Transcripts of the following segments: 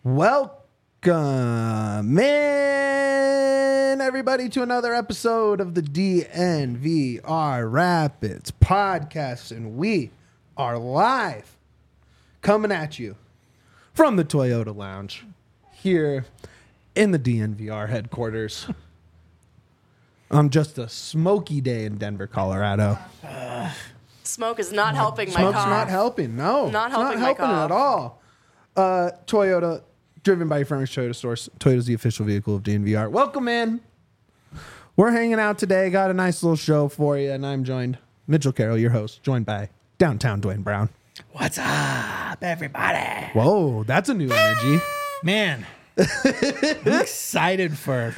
Welcome in, everybody, to another episode of the DNVR Rapids podcast, and we are live coming at you from the Toyota Lounge here in the DNVR headquarters on just a smoky day in Denver, Colorado. Smoke is not helping my Smoke's cough. not helping. No, Not it's helping not my helping cough. at all. Toyota, driven by your friendly Toyota stores. Toyota's the official vehicle of DNVR. Welcome in. We're hanging out today. Got a nice little show for you, and I'm joined, Mitchell Carroll, your host, joined by Downtown Dwayne Brown. What's up, everybody? Whoa, that's a new energy. Man, I'm excited for...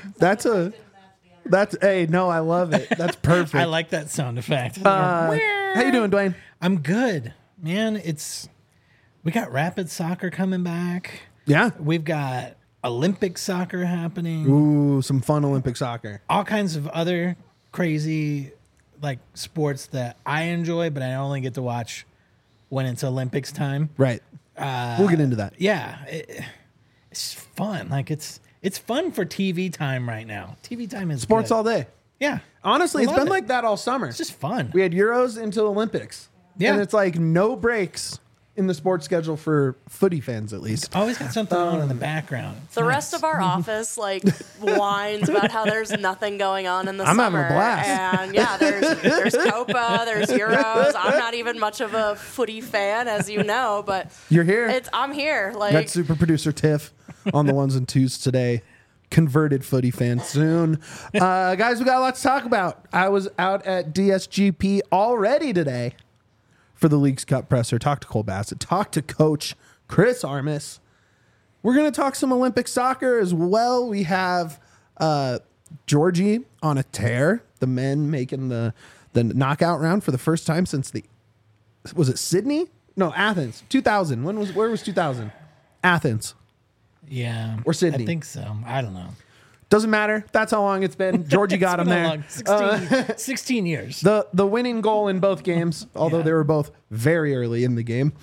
Hey, no, I love it. That's perfect. I like that sound effect. How you doing, Dwayne? I'm good. Man, we got rapid soccer coming back. Yeah. We've got Olympic soccer happening. Ooh, some fun Olympic soccer. All kinds of other crazy sports that I enjoy, but I only get to watch when it's Olympics time. Right. We'll get into that. Yeah, it's fun. It's fun for TV time right now. TV time is Sports good. all day. Yeah. Honestly, I it's love been it. like that all summer. It's just fun. We had Euros into Olympics. Yeah. And it's like no breaks in the sports schedule for footy fans, at least. Always got something on in the background. It's The nice. rest of our office whines about how there's nothing going on in the I'm summer. having a blast. And yeah, there's Copa, there's Euros. I'm not even much of a footy fan, as you know, but You're here. I'm here. Got super producer Tiff on the ones and twos today. Converted footy fan soon. Guys, we got a lot to talk about. I was out at DSGP already today for the Leagues Cup presser. Talked to Cole Bassett. Talked to Coach Chris Armas. We're going to talk some Olympic soccer as well. We have Georgie on a tear. The men making the knockout round for the first time since was it Sydney? No, Athens. 2000. Where was 2000? Athens. Yeah. Or Sydney. I think so. I don't know. Doesn't matter. That's how long it's been. Georgie got him there. 16 years. The winning goal in both games, although Yeah. they were both very early in the game.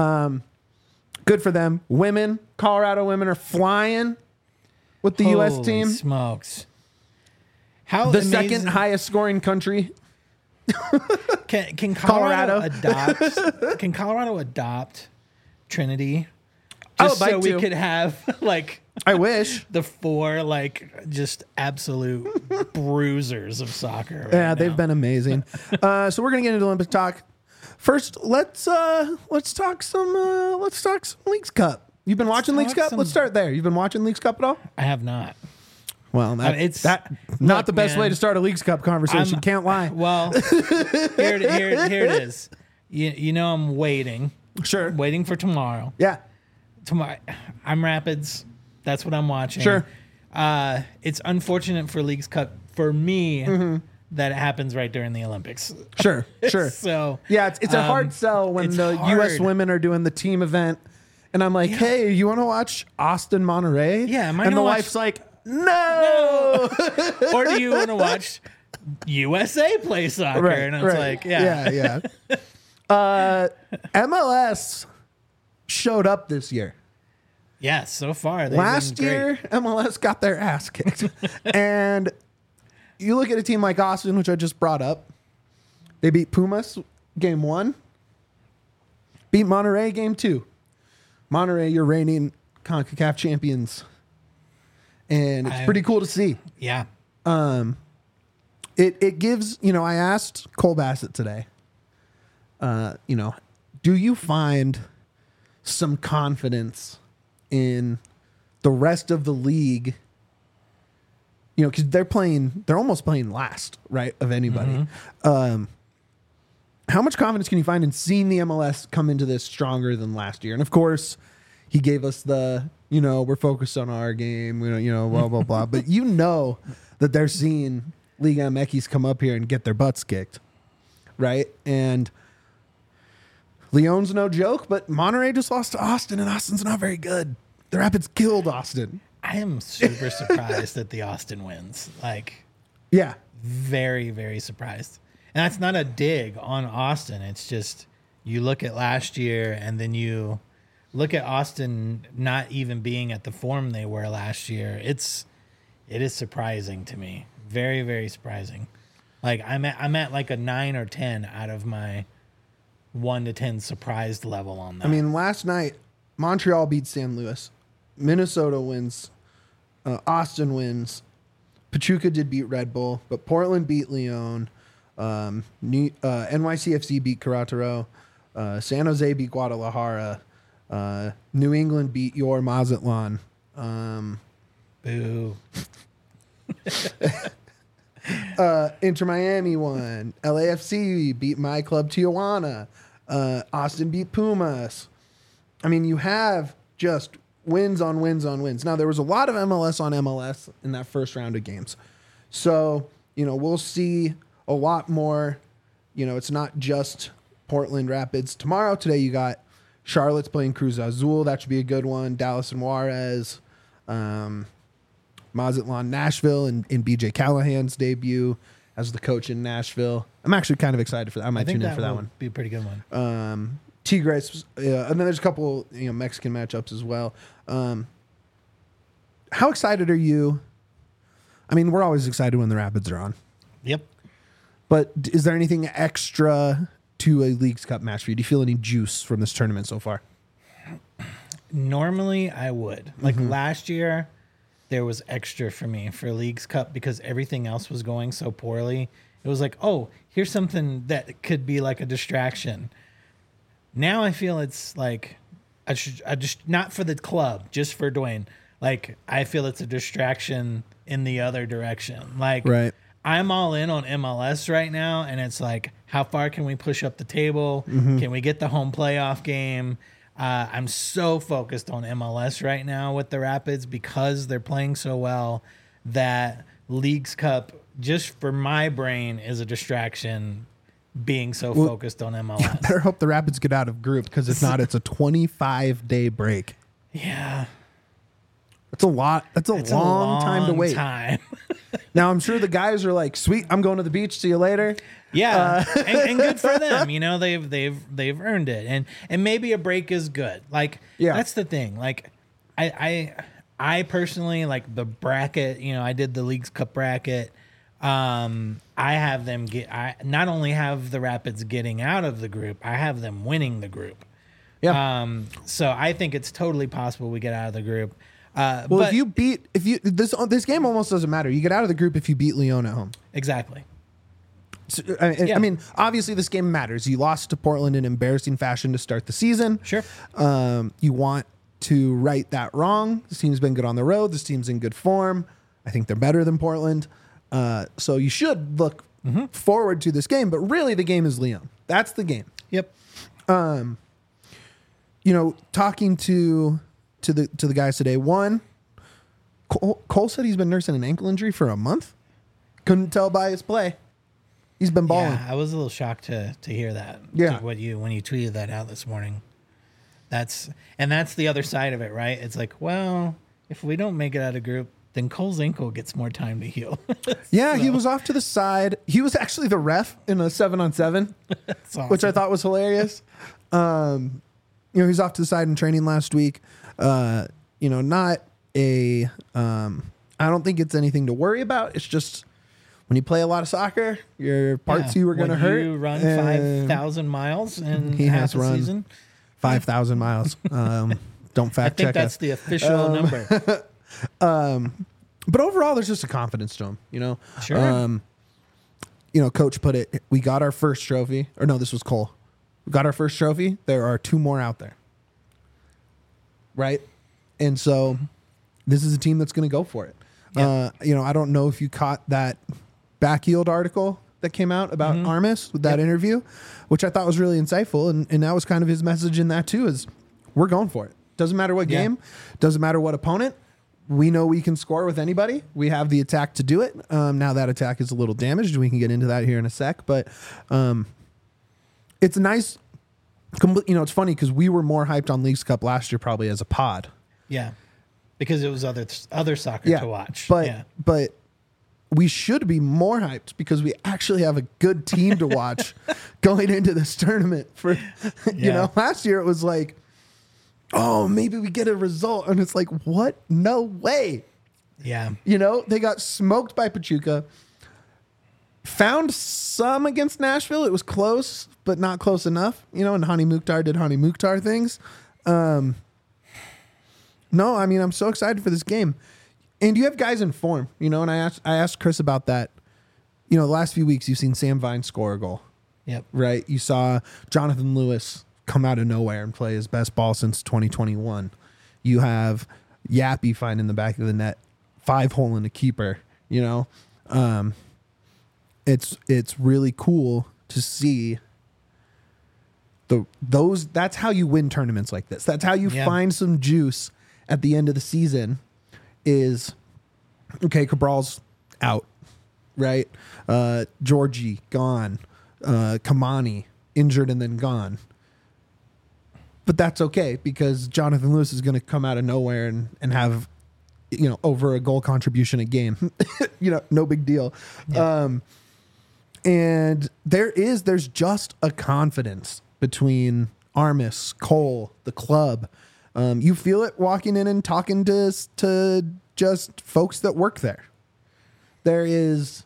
Good for them. Women, Colorado women are flying with the U.S. Holy team. smokes. How The amazing- second highest scoring country. Can Colorado. Can Colorado adopt Trinity? I Just would like so we to. could have I wish. the four just absolute bruisers of soccer. Right Yeah, they've now. been amazing. So we're gonna get into Olympic talk. First, let's talk some Leagues Cup. You've been watching Leagues talk Cup? some- Let's start there. You've been watching Leagues Cup at all? I have not. Well, not Look, the best man, way to start a Leagues Cup conversation. Can't lie. Well, here it is. You know I'm waiting Sure. for tomorrow. Yeah. Tomorrow, I'm Rapids. That's what I'm watching. Sure. It's unfortunate for Leagues Cup for me Mm-hmm. that it happens right during the Olympics. Sure. Sure. So Yeah, it's a hard sell when it's the U.S. hard. women are doing the team event, and I'm like, hey, you want to watch Austin Monterey? Yeah, am I and the gonna watch- wife's like, no. or do you want to watch USA play soccer? Right, And it's right. like, yeah. MLS showed up this year. Yeah, so far. They've Last been great. year, MLS got their ass kicked. And you look at a team like Austin, which I just brought up. They beat Pumas game 1. Beat Monterey game 2. Monterey, you're reigning CONCACAF champions. And it's pretty cool to see. Yeah. It gives, I asked Cole Bassett today, do you find some confidence in the rest of the league? Because they're almost playing last, right, of anybody. Mm-hmm. How much confidence can you find in seeing the MLS come into this stronger than last year? And of course, he gave us we're focused on our game, blah, blah, blah. But that they're seeing Liga MX come up here and get their butts kicked, right? And Leon's no joke, but Monterey just lost to Austin, and Austin's not very good. The Rapids killed Austin. I am super surprised that the Austin wins. Yeah. Very, very surprised. And that's not a dig on Austin. It's just you look at last year and then you look at Austin not even being at the form they were last year. It is surprising to me. Very, very surprising. Like I'm at like a 9 or 10 out of my 1 to 10 surprised level on that. I mean, last night Montreal beat San Luis, Minnesota wins, Austin wins, Pachuca did beat Red Bull, but Portland beat Leon, NYCFC beat Querétaro, San Jose beat Guadalajara, New England beat your Mazatlan. Boo. Inter Miami won. LAFC beat my club Tijuana. Austin beat Pumas. I mean, you have just wins on wins on wins. Now, there was a lot of MLS on MLS in that first round of games. So, we'll see a lot more. It's not just Portland Rapids tomorrow. Today, you got Charlotte's playing Cruz Azul. That should be a good one. Dallas and Juarez. Mazatlan, Nashville, and BJ Callahan's debut as the coach in Nashville. I'm actually kind of excited for that. I might tune in for that one. Be a pretty good one. Tigres, and then there's a couple Mexican matchups as well. How excited are you? I mean, we're always excited when the Rapids are on. Yep. But is there anything extra to a Leagues Cup match for you? Do you feel any juice from this tournament so far? Normally, I would. Like last year, there was extra for me for Leagues Cup because everything else was going so poorly. It was like, oh, here's something that could be like a distraction. Now I feel it's like I just not for the club, just for Dwayne. Like I feel it's a distraction in the other direction. Like right. I'm all in on MLS right now, and it's like, how far can we push up the table? Can we get the home playoff game? I'm so focused on MLS right now with the Rapids because they're playing so well that Leagues Cup, just for my brain, is a distraction being so focused on MLS. Better hope the Rapids get out of group because if not, it's a 25-day break. Yeah. That's a lot. That's a long time to wait. Now, I'm sure the guys are like, sweet, I'm going to the beach. See you later. Yeah, and good for them. They've earned it, and maybe a break is good. Like, that's the thing. Like, I personally like the bracket. I did the Leagues Cup bracket. I have them I not only have the Rapids getting out of the group, I have them winning the group. Yeah. So I think it's totally possible we get out of the group. But this game almost doesn't matter. You get out of the group if you beat Leon at home. Exactly. So, I mean, obviously this game matters. You lost to Portland in embarrassing fashion to start the season. Sure. You want to right that wrong. This team's been good on the road. This team's in good form. I think they're better than Portland. So you should look forward to this game. But really, the game is Leon. That's the game. Yep. Talking to the guys today. One, Cole said he's been nursing an ankle injury for a month. Couldn't tell by his play. He's been balling. Yeah, I was a little shocked to hear that. Yeah. When you tweeted that out this morning. That's the other side of it, right? It's like, well, if we don't make it out of group, then Cole's ankle gets more time to heal. Yeah, he was off to the side. He was actually the ref in a 7-on-7, awesome. which I thought was hilarious. He's off to the side in training last week. Not a. I don't think it's anything to worry about. It's just when you play a lot of soccer, your part two are going to hurt. You run 5,000 miles in he half has a run season. 5,000 miles. Don't fact I think check that's us. the official number. But overall, there's just a confidence to him. Sure. Coach put it. We got our first trophy. Or no, this was Cole. We got our first trophy. There are 2 more out there. Right? And so this is a team that's going to go for it. Yeah. I don't know if you caught that Backfield article that came out about Armas with that interview, which I thought was really insightful. And that was kind of his message in that too, is we're going for it. Doesn't matter what game, doesn't matter what opponent. We know we can score with anybody. We have the attack to do it. Now that attack is a little damaged. We can get into that here in a sec, but it's nice. It's funny because we were more hyped on Leagues Cup last year probably as a pod. Yeah, because it was other soccer to watch. But we should be more hyped because we actually have a good team to watch going into this tournament. Last year it was like, oh, maybe we get a result. And it's like, what? No way. Yeah. You know, they got smoked by Pachuca. Found some against Nashville. It was close, but not close enough. You know, and Hani Mukhtar did Hani Mukhtar things. No, I mean, I'm so excited for this game. And you have guys in form, you know, and I asked Chris about that. You know, the last few weeks, you've seen Sam Vine score a goal. Yep. Right? You saw Jonathan Lewis come out of nowhere and play his best ball since 2021. You have Yappy finding the back of the net, 5-hole in the keeper, you know? It's really cool to see that's how you win tournaments like this. That's how you find some juice at the end of the season is, okay, Cabral's out, right? Georgie gone. Kamani injured and then gone. But that's okay because Jonathan Lewis is going to come out of nowhere and have, you know, over a goal contribution a game. You know, no big deal. Yeah. And there's just a confidence between Armis, Cole, the club. You feel it walking in and talking to just folks that work there. There is,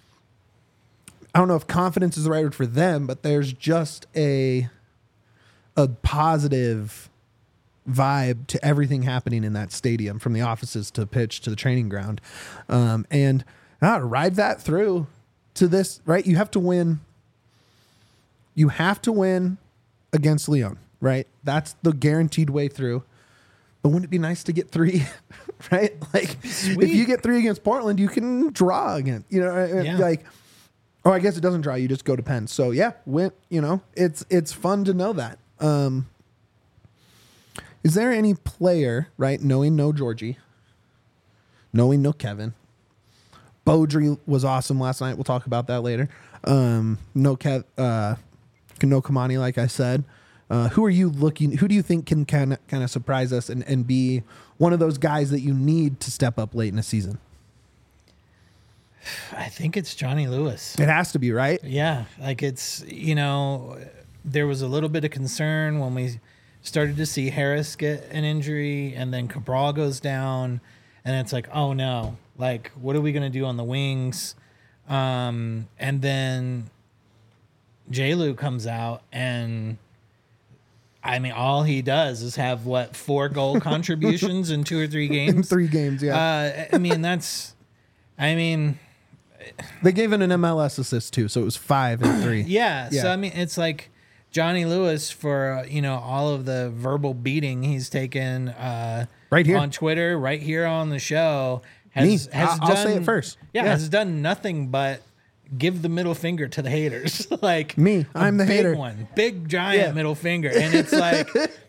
I don't know if confidence is the right word for them, but there's just a positive vibe to everything happening in that stadium, from the offices to the pitch to the training ground. And ride that through to this, right? You have to win. You have to win against Leon, right? That's the guaranteed way through. But wouldn't it be nice to get 3, right? Like, if you get 3 against Portland, you can draw again. You know, like, oh, I guess it doesn't draw. You just go to Penn. So yeah, win. You know, it's fun to know that. Is there any player, right, knowing no Georgie, knowing no Kevin? Beaudry was awesome last night. We'll talk about that later. No Kamani, like I said. Who do you think can kind of surprise us and be one of those guys that you need to step up late in the season? I think it's Johnny Lewis. It has to be, right? Yeah. Like, it's, you know, there was a little bit of concern when we started to see Harris get an injury and then Cabral goes down and it's like, oh no, like, what are we going to do on the wings? And then J-Lu comes out and, I mean, all he does is have 4 goal contributions in 2 or 3 games. In 3 games, yeah. They gave it an MLS assist too, so it was 5 and 3. Yeah. So I mean, it's like Johnny Lewis for all of the verbal beating he's taken right here on Twitter, right here on the show. I'll say it first. Yeah, has done nothing but give the middle finger to the haters. Like, me, I'm the hater. Big giant middle finger, and it's like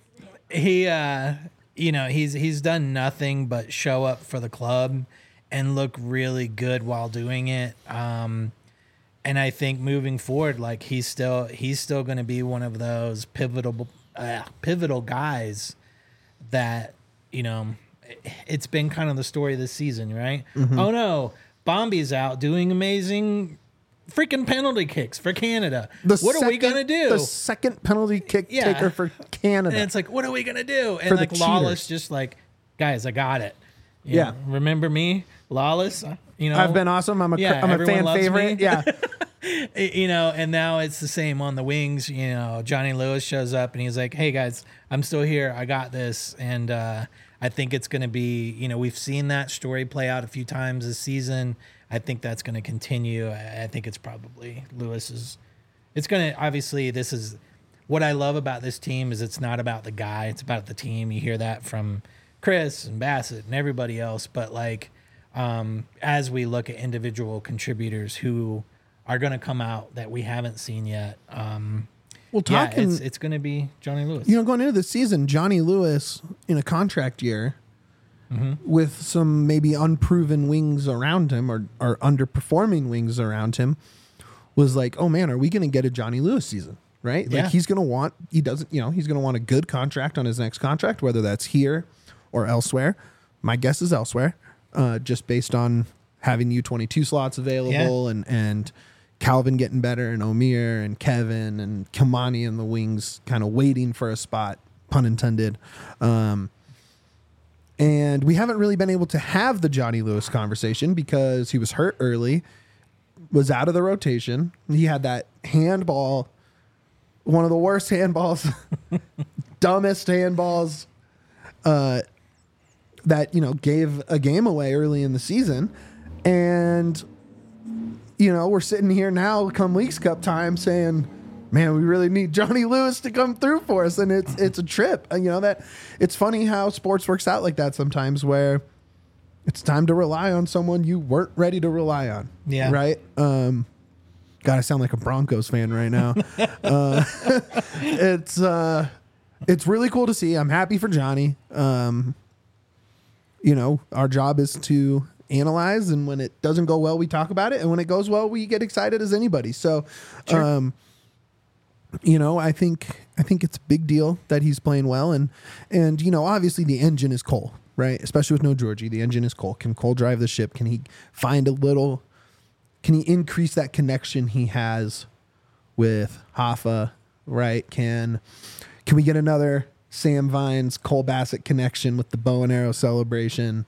he's done nothing but show up for the club and look really good while doing it. And I think moving forward, like, he's still going to be one of those pivotal guys that, it's been kind of the story this season, right? Mm-hmm. Oh no, Bombi's out doing amazing freaking penalty kicks for Canada. What are we going to do? The second penalty kick taker for Canada. And it's like, what are we going to do? And like Lawless just like, guys, I got it. You know, remember me? Lawless, I've been awesome. I'm a fan favorite. Me. Yeah. And now it's the same on the wings. Johnny Lewis shows up and he's like, hey guys, I'm still here. I got this. And I think it's going to be, we've seen that story play out a few times this season. I think that's going to continue. I think it's probably Lewis's. It's going to, obviously, this is what I love about this team is it's not about the guy. It's about the team. You hear that from Chris and Bassett and everybody else. But like, as we look at individual contributors who are going to come out that we haven't seen yet, it's going to be Johnny Lewis. Going into the season, Johnny Lewis in a contract year with some maybe unproven wings around him or underperforming wings around him was like, oh man, are we going to get a Johnny Lewis season? Right? Yeah. Like he's going to want a good contract on his next contract, whether that's here or elsewhere. My guess is elsewhere, just based on having U22 slots available and Calvin getting better and Omir and Kevin and Kamani and the wings kind of waiting for a spot pun intended. And we haven't really been able to have the Johnny Lewis conversation because he was hurt early, was out of the rotation. He had that handball, one of the worst handballs, dumbest handballs, that, gave a game away early in the season. And, we're sitting here now come Leagues Cup time saying, man, we really need Johnny Lewis to come through for us. And it's a trip. And, that it's funny how sports works out like that sometimes, where it's time to rely on someone you weren't ready to rely on. Yeah. Right. God, I sound like a Broncos fan right now. It's really cool to see. I'm happy for Johnny. Our job is to analyze, and when it doesn't go well, we talk about it, and when it goes well, we get excited as anybody. So, sure. I think it's a big deal that he's playing well, and obviously the engine is Cole, right? Especially with no Georgie, the engine is Cole. Can Cole drive the ship? Can he Can he increase that connection he has with Hoffa, right? Can we get another Sam Vines, Cole Bassett connection with the bow and arrow celebration?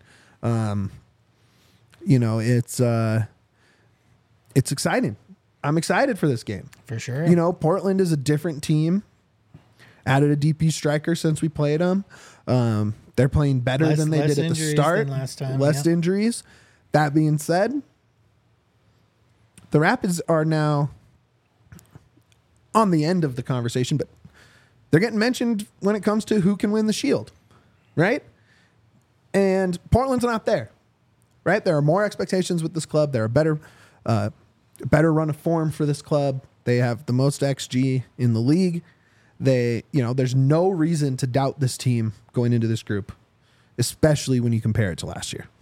It's exciting. I'm excited for this game. For sure. Portland is a different team. Added a DP striker since we played them. They're playing better than they did at the start. Last time, less injuries. That being said, the Rapids are now on the end of the conversation, but they're getting mentioned when it comes to who can win the Shield, right? And Portland's not there, right? There are more expectations with this club. They're a better run of form for this club. They have the most XG in the league. There's no reason to doubt this team going into this group, especially when you compare it to last year.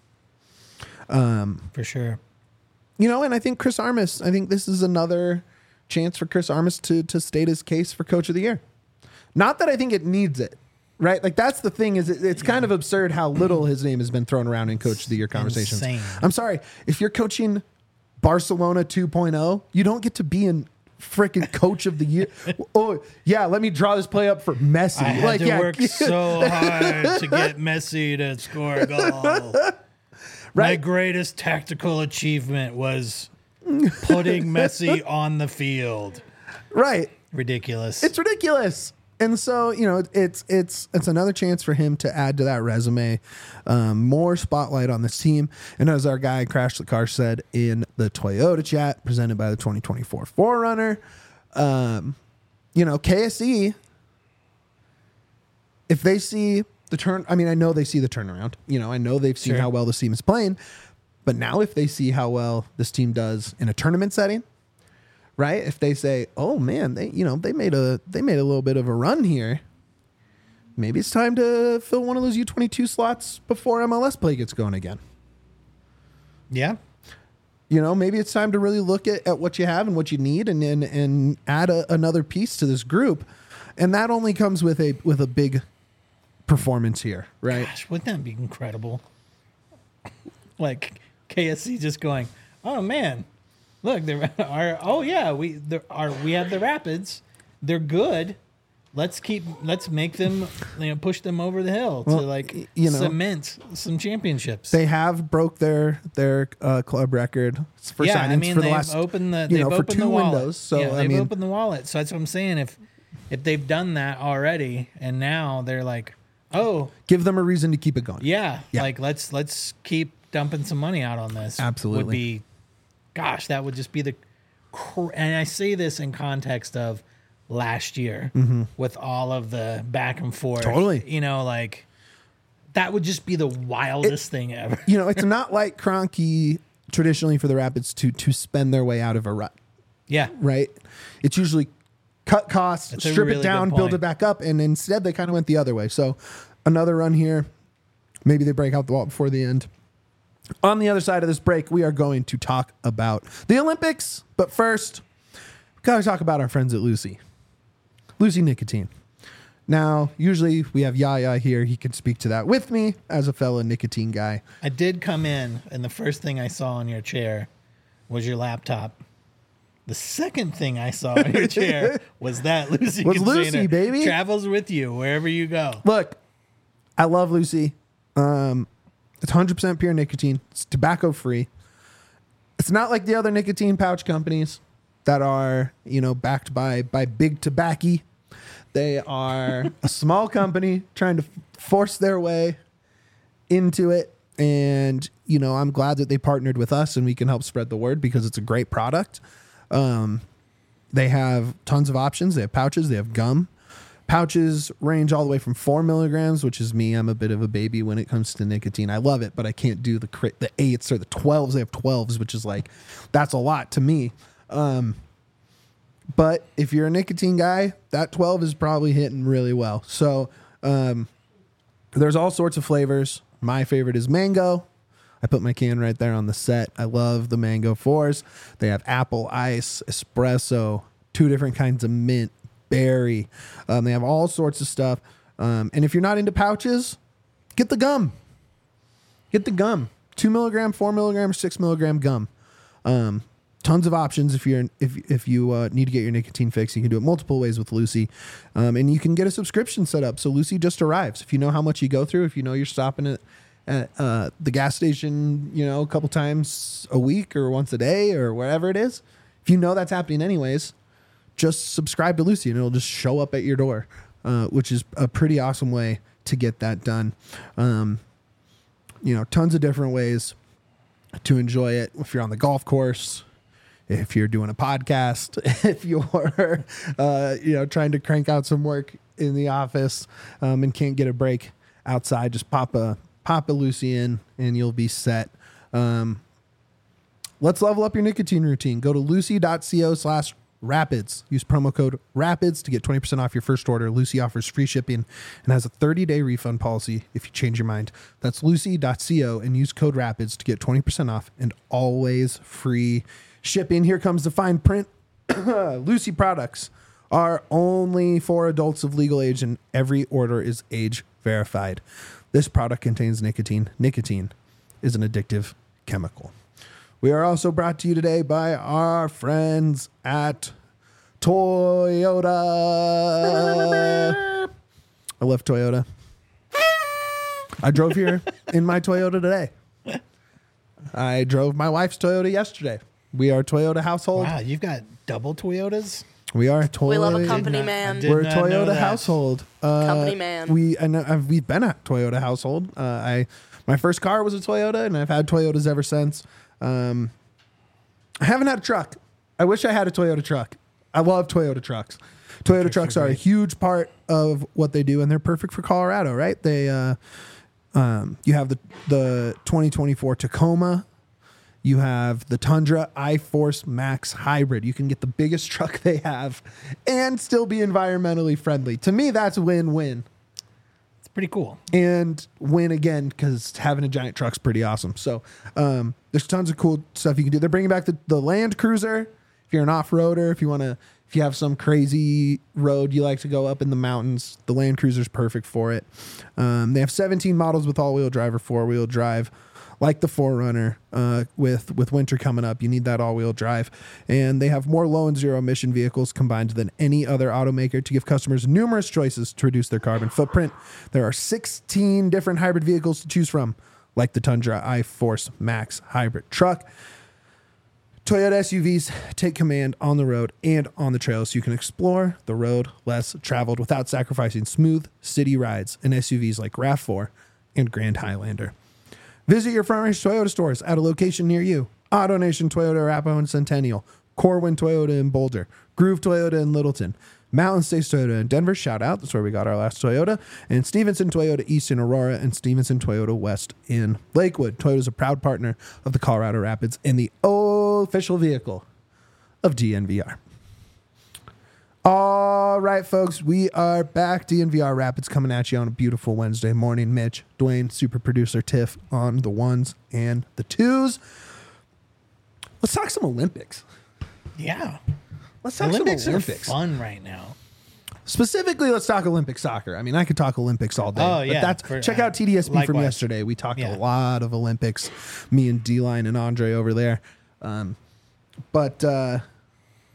For sure. And I think Chris Armas, this is another chance for Chris Armas to state his case for Coach of the Year. Not that I think it needs it, right? Like, that's the thing, is it's kind of absurd how little his name has been thrown around in Coach of the Year conversations. Insane. I'm sorry. If you're coaching Barcelona 2.0, you don't get to be in freaking Coach of the Year. Oh, yeah, let me draw this play up for Messi. I had to work so hard to get Messi to score a goal. Right? My greatest tactical achievement was putting Messi on the field. Right. Ridiculous. It's ridiculous. And so, it's another chance for him to add to that resume, more spotlight on this team. And as our guy Crash the Car said in the Toyota chat presented by the 2024 4Runner, KSE, if they see I know they see the turnaround. I know they've seen how well this team is playing. But now if they see how well this team does in a tournament setting, right? If they say, "Oh man, they made a little bit of a run here. Maybe it's time to fill one of those U22 slots before MLS play gets going again." Yeah. Maybe it's time to really look at what you have and what you need, and add another piece to this group. And that only comes with a big performance here, right? Gosh, wouldn't that be incredible? Like KSC just going, "Oh man, look, we have the Rapids. They're good. Let's make them, push them over the hill to cement some championships." They have broke their club record for signings for the last opened the for two windows. So they've opened the wallet. So that's what I'm saying. If they've done that already, and now they're like, oh, give them a reason to keep it going. Yeah. Like let's keep dumping some money out on this. Absolutely. That would just be and I say this in context of last year with all of the back and forth. Totally. That would just be the wildest thing ever. It's not like Kroenke traditionally for the Rapids to spend their way out of a rut. Yeah. Right? It's usually cut costs, strip it down, build it back up, and instead they kind of went the other way. So another run here. Maybe they break out the wall before the end. On the other side of this break, we are going to talk about the Olympics. But first, we got to talk about our friends at Lucy Nicotine. Now, usually we have Yaya here. He can speak to that with me as a fellow nicotine guy. I did come in, and the first thing I saw on your chair was your laptop. The second thing I saw in your chair was that Lucy Was container. Lucy, baby. Travels with you wherever you go. Look, I love Lucy. It's 100% pure nicotine. It's tobacco free. It's not like the other nicotine pouch companies that are, backed by big tobacco. They are a small company trying to force their way into it. And, I'm glad that they partnered with us and we can help spread the word because it's a great product. They have tons of options. They have pouches. They have gum. Pouches range all the way from 4 milligrams, which is me. I'm a bit of a baby when it comes to nicotine. I love it, but I can't do the 8s or the 12s. They have 12s, which is that's a lot to me. But if you're a nicotine guy, that 12 is probably hitting really well. So there's all sorts of flavors. My favorite is mango. I put my can right there on the set. I love the mango 4s. They have apple ice, espresso, 2 different kinds of mint, berry. They have all sorts of stuff. And if you're not into pouches, get the gum. Get the gum. 2 milligram, 4 milligram, 6 milligram gum. Tons of options if you need to get your nicotine fix. You can do it multiple ways with Lucy. And you can get a subscription set up. So Lucy just arrives. If you know how much you go through, if you know you're stopping at the gas station, a couple times a week or once a day or wherever it is, if you know that's happening anyways, just subscribe to Lucy and it'll just show up at your door, which is a pretty awesome way to get that done. Tons of different ways to enjoy it. If you're on the golf course, if you're doing a podcast, if you're, trying to crank out some work in the office and can't get a break outside, just pop a Lucy in and you'll be set. Let's level up your nicotine routine. Go to lucy.co/rapids. Use promo code RAPIDS to get 20% off your first order. Lucy offers free shipping and has a 30-day refund policy if you change your mind. That's lucy.co and use code RAPIDS to get 20% off and always free shipping. Here comes the fine print. Lucy products are only for adults of legal age and every order is age verified. This product contains nicotine. Nicotine is an addictive chemical. We are also brought to you today by our friends at Toyota. I love Toyota. I drove here in my Toyota today. I drove my wife's Toyota yesterday. We are a Toyota household. Wow, you've got double Toyotas? We are a Toyota. We love a company man. We're a Toyota household. Company man. We've been a Toyota household. My first car was a Toyota, and I've had Toyotas ever since. I haven't had a truck. I wish I had a Toyota truck. I love Toyota trucks. Toyota trucks are a huge part of what they do, and they're perfect for Colorado, right? They, you have the 2024 Tacoma. You have the Tundra iForce Max Hybrid. You can get the biggest truck they have and still be environmentally friendly. To me, that's win-win. It's pretty cool. And win again because having a giant truck's pretty awesome. So there's tons of cool stuff you can do. They're bringing back the Land Cruiser. If you're an off-roader, if you have some crazy road you like to go up in the mountains, the Land Cruiser's perfect for it. They have 17 models with all-wheel drive or four-wheel drive. Like the 4Runner, with winter coming up, you need that all-wheel drive. And they have more low and zero emission vehicles combined than any other automaker to give customers numerous choices to reduce their carbon footprint. There are 16 different hybrid vehicles to choose from, like the Tundra iForce Max Hybrid truck. Toyota SUVs take command on the road and on the trails so you can explore the road less traveled without sacrificing smooth city rides in SUVs like RAV4 and Grand Highlander. Visit your Front Range Toyota stores at a location near you. AutoNation Toyota Arapahoe and Centennial, Corwin Toyota in Boulder, Groove Toyota in Littleton, Mountain States Toyota in Denver, shout out, that's where we got our last Toyota, and Stevenson Toyota East in Aurora and Stevenson Toyota West in Lakewood. Toyota is a proud partner of the Colorado Rapids and the official vehicle of DNVR. All right, folks, we are back. DNVR Rapids coming at you on a beautiful Wednesday morning. Mitch, Dwayne, super producer Tiff on the ones and the twos. Let's talk some Olympics. Yeah. Let's talk Olympics some Olympics. are fun right now. Specifically, let's talk Olympic soccer. I mean, I could talk Olympics all day. Oh, yeah. But check out TDSP from likewise. yesterday. We talked Yeah. a lot of Olympics. Me and D-Line and Andre over there.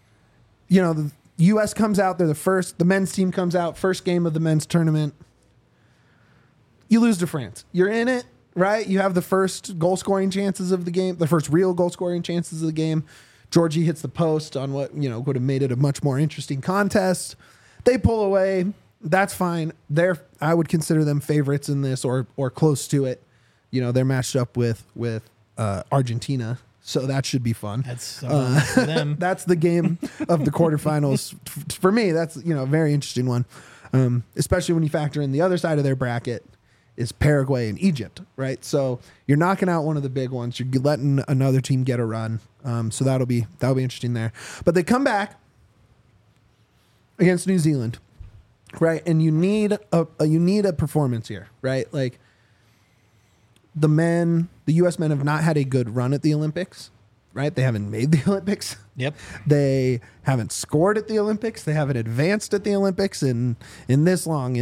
the U.S. comes out. The men's team comes out, first game of the men's tournament. You lose to France. You're in it, right? You have the first goal scoring chances of the game, the first real goal scoring chances of the game. Georgie hits the post on what, would have made it a much more interesting contest. They pull away. That's fine. I would consider them favorites in this or close to it. They're matched up with Argentina. So that should be fun. That's for them. That's the game of the quarterfinals. For me, that's a very interesting one, especially when you factor in the other side of their bracket is Paraguay and Egypt, right? So you're knocking out one of the big ones. You're letting another team get a run. So that'll be interesting there. But they come back against New Zealand, right? And you need a performance here, right? Like the U.S. men have not had a good run at the Olympics, right? They haven't made the Olympics. Yep. They haven't scored at the Olympics. They haven't advanced at the Olympics in this long.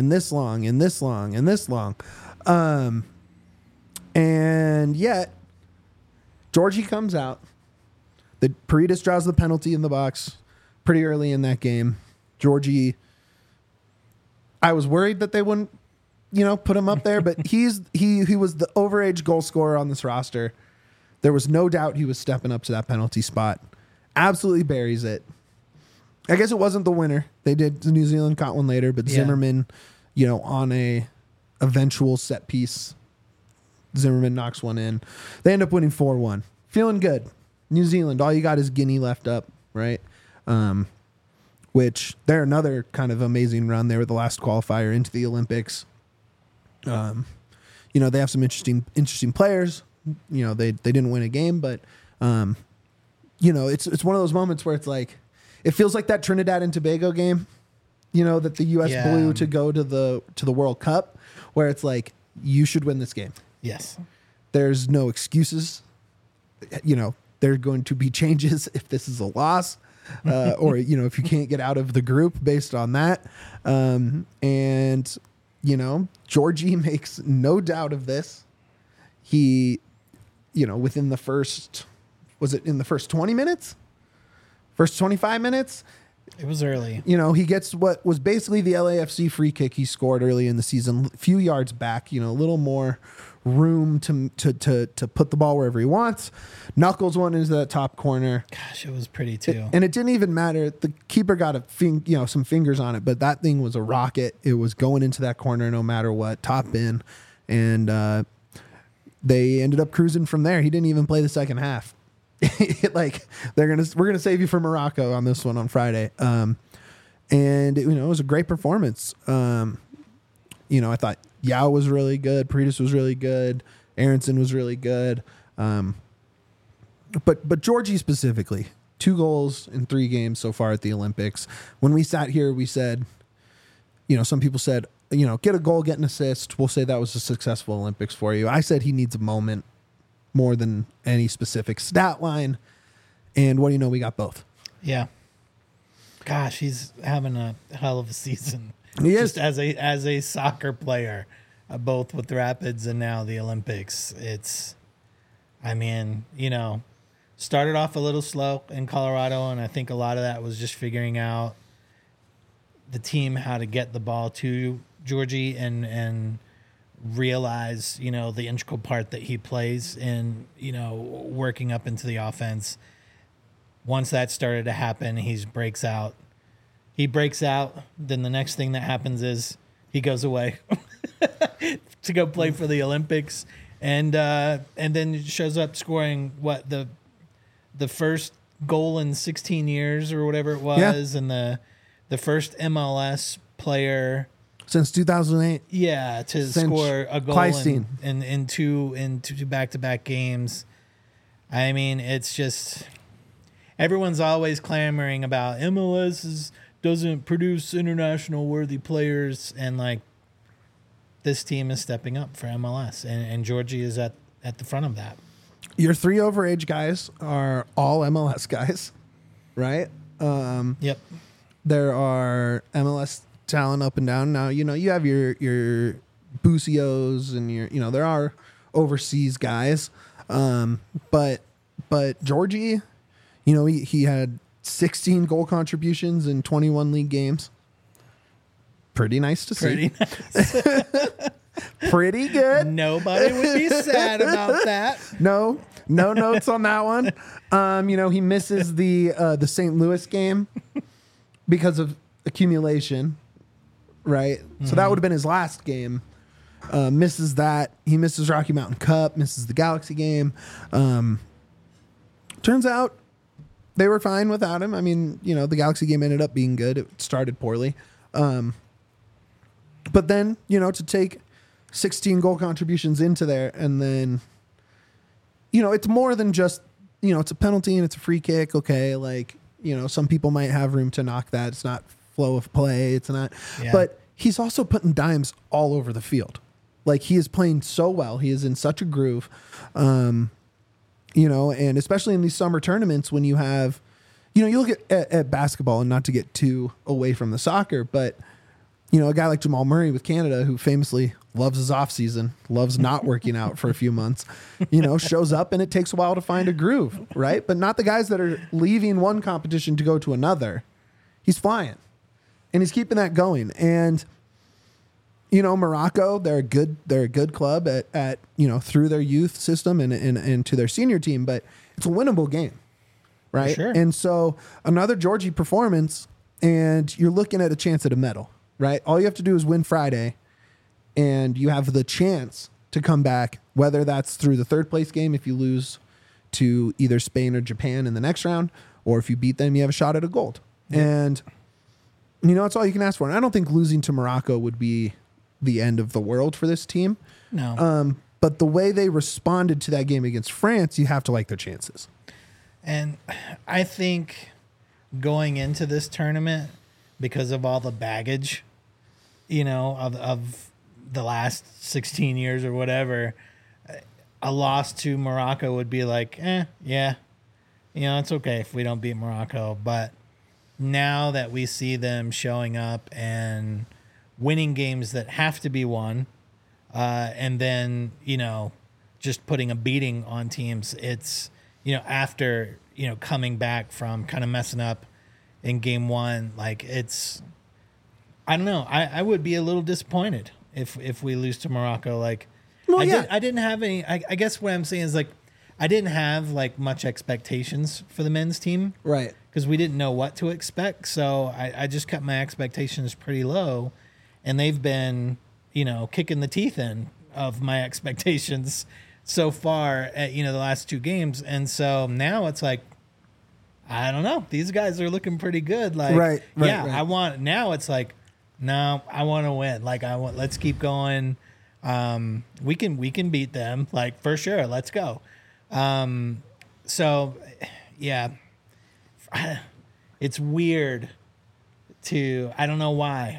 And yet, Georgie comes out. The Paredes draws the penalty in the box pretty early in that game. Georgie, I was worried that they wouldn't, put him up there, but he was the overage goal scorer on this roster. There was no doubt he was stepping up to that penalty spot. Absolutely buries it. I guess it wasn't the winner. New Zealand caught one later, but Zimmerman, on a eventual set piece, Zimmerman knocks one in. They end up winning 4-1. Feeling good. New Zealand, all you got is Guinea left up, right? Which they're another kind of amazing run. They were the last qualifier into the Olympics. They have some interesting players. They didn't win a game, but it's one of those moments where it's like it feels like that Trinidad and Tobago game, that the U.S. blew to go to the World Cup, where it's like you should win this game. Yes. There's no excuses. There are going to be changes if this is a loss, or if you can't get out of the group based on that. Georgie makes no doubt of this. He, within the first 20 minutes? First 25 minutes? It was early. He gets what was basically the LAFC free kick he scored early in the season, a few yards back, a little more room to put the ball wherever he wants. Knuckles one into that top corner. Gosh, it was pretty too. And it didn't even matter. The keeper got some fingers on it, but that thing was a rocket. It was going into that corner no matter what, top in. And they ended up cruising from there. He didn't even play the second half. We're gonna save you for Morocco on this one on Friday. And it was a great performance. I thought Yao was really good. Paredes was really good. Aronson was really good. But Georgie specifically, 2 goals in 3 games so far at the Olympics. When we sat here, we said, some people said, get a goal, get an assist. We'll say that was a successful Olympics for you. I said he needs a moment more than any specific stat line. And what do you know? We got both. Yeah. Gosh, he's having a hell of a season. He is. Just as a soccer player, both with the Rapids and now the Olympics. Started off a little slow in Colorado, and I think a lot of that was just figuring out the team how to get the ball to Georgie and realize, the integral part that he plays in, working up into the offense. Once that started to happen, he breaks out. Then the next thing that happens is he goes away to go play for the Olympics, and then shows up scoring the first goal in 16 years or whatever it was, and the first MLS player since 2008. Yeah, to score a goal in two back-to-back games. I mean, it's just everyone's always clamoring about MLS doesn't produce international worthy players, and this team is stepping up for MLS, and Georgie is at the front of that. Your 3 overage guys are all MLS guys, right? Yep. There are MLS talent up and down. Now, you have your Bucios and there are overseas guys. But Georgie, he had 16 goal contributions in 21 league games. Pretty nice to see. Pretty nice. Pretty good. Nobody would be sad about that. No notes on that one. He misses the St. Louis game because of accumulation, right? Mm-hmm. So that would have been his last game. Misses that. He misses Rocky Mountain Cup, misses the Galaxy game. Turns out they were fine without him. I mean, the Galaxy game ended up being good. It started poorly. But then, to take 16 goal contributions into there, and then, it's more than just, it's a penalty and it's a free kick. Okay. Like, some people might have room to knock that. It's not flow of play. It's not, but he's also putting dimes all over the field. Like, he is playing so well. He is in such a groove. And especially in these summer tournaments when you have, you look at basketball, and not to get too away from the soccer, but, a guy like Jamal Murray with Canada, who famously loves his off season, loves not working out for a few months, shows up and it takes a while to find a groove, right? But not the guys that are leaving one competition to go to another. He's flying and he's keeping that going. And, Morocco, they're a good club at through their youth system and to their senior team, but it's a winnable game, right? Sure. And so another Georgie performance, and you're looking at a chance at a medal, right? All you have to do is win Friday, and you have the chance to come back, whether that's through the third place game if you lose to either Spain or Japan in the next round, or if you beat them, you have a shot at a gold. Yeah. And, it's all you can ask for. And I don't think losing to Morocco would be the end of the world for this team. No. But the way they responded to that game against France, you have to like their chances. And I think going into this tournament, because of all the baggage, of the last 16 years or whatever, a loss to Morocco would be like, yeah, it's okay if we don't beat Morocco. But now that we see them showing up and winning games that have to be won, and then, just putting a beating on teams, it's, after, coming back from kind of messing up in game one, like I don't know. I would be a little disappointed if we lose to Morocco. Like, I didn't have any. I guess what I'm saying is, like, I didn't have like much expectations for the men's team, right? Because we didn't know what to expect. So I just kept my expectations pretty low, and they've been, kicking the teeth in of my expectations so far at the last two games, and so now it's like, I don't know. These guys are looking pretty good. Like, right. I want now. It's like, no, I want to win. Like, let's keep going. We can beat them, like, for sure. Let's go. So yeah, it's weird I don't know why.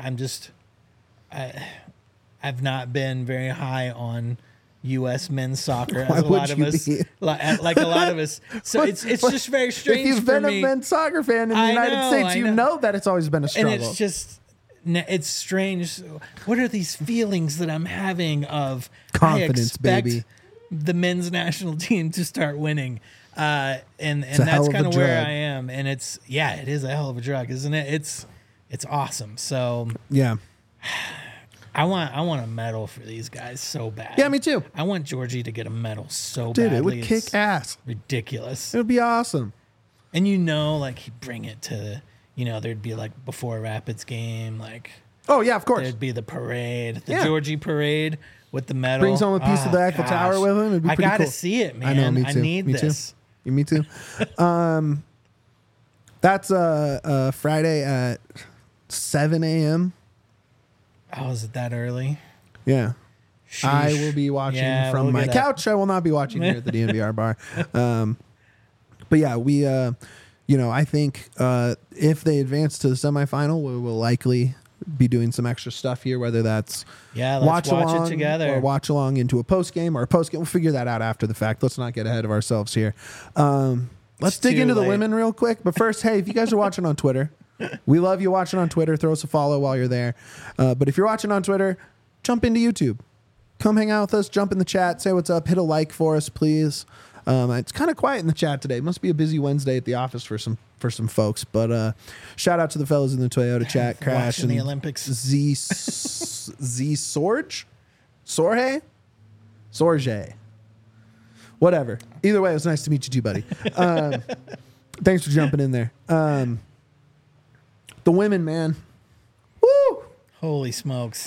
I've not been very high on U.S. men's soccer, as a lot of us, like a lot of us. So it's just very strange. If you've been a men's soccer fan in the United States, you know that it's always been a struggle. And it's strange. What are these feelings that I'm having of confidence, baby? The men's national team to start winning, and that's kind of where I am. And it is a hell of a drug, isn't it? It's awesome. So yeah. I want a medal for these guys so bad. Yeah, me too. I want Georgie to get a medal so bad. Dude, it would kick ass. Ridiculous. It would be awesome. And like, he'd bring it to, there'd be like before Rapids game, like. Oh, yeah, of course. There'd be the parade, Georgie parade with the medal. Brings home a piece of the Eiffel Tower with him. It'd be pretty cool. I gotta see it, man. I know, me too. I need this. Too. Me too. That's Friday at 7 a.m. Oh, is it that early? Yeah. Sheesh. I will be watching from my couch. I will not be watching here at the DNVR bar. But yeah, we, I think if they advance to the semifinal, we will likely be doing some extra stuff here, whether that's let's watch it together or watch along into a post game or a post game. We'll figure that out after the fact. Let's not get ahead of ourselves here. Let's dig into the women real quick. But first, hey, if you guys are watching on Twitter, we love you watching on Twitter. Throw us a follow while you're there. But if you're watching on Twitter, jump into YouTube. come hang out with us, jump in the chat, say what's up, hit a like for us, please. It's kind of quiet in the chat today. Must be a busy Wednesday at the office for some folks. But shout out to the fellas in the Toyota chat, Crash Watching and the Olympics. Z Sorge, Sorge, whatever. Either way, it was nice to meet you too, buddy. Thanks for jumping in there. The women, man. Woo! Holy smokes.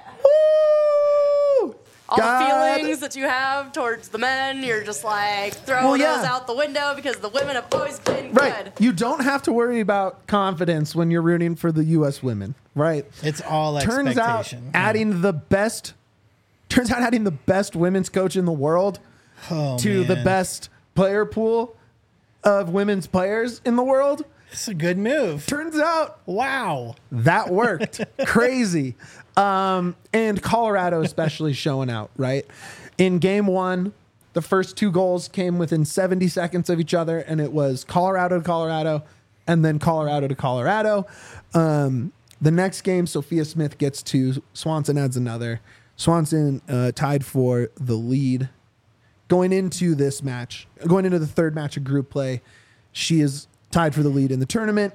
Woo! All God. the feelings that you have towards the men, you're just like throwing Well, yeah. those out the window because the women have always been Right. good. You don't have to worry about confidence when you're rooting for the U.S. women, right? It's all Turns out expectation. adding the best women's coach in the world Oh, to the man. best player pool of women's players in the world. It's a good move. Turns out Wow. that worked. Crazy. And Colorado especially showing out, right? In game one, the first 2 goals came within 70 seconds of each other, and it was Colorado to Colorado and then Colorado to Colorado. The next game, Sophia Smith gets 2. Swanson adds another. Swanson tied for the lead. Going into this match, going into the third match of group play, she is tied for the lead in the tournament.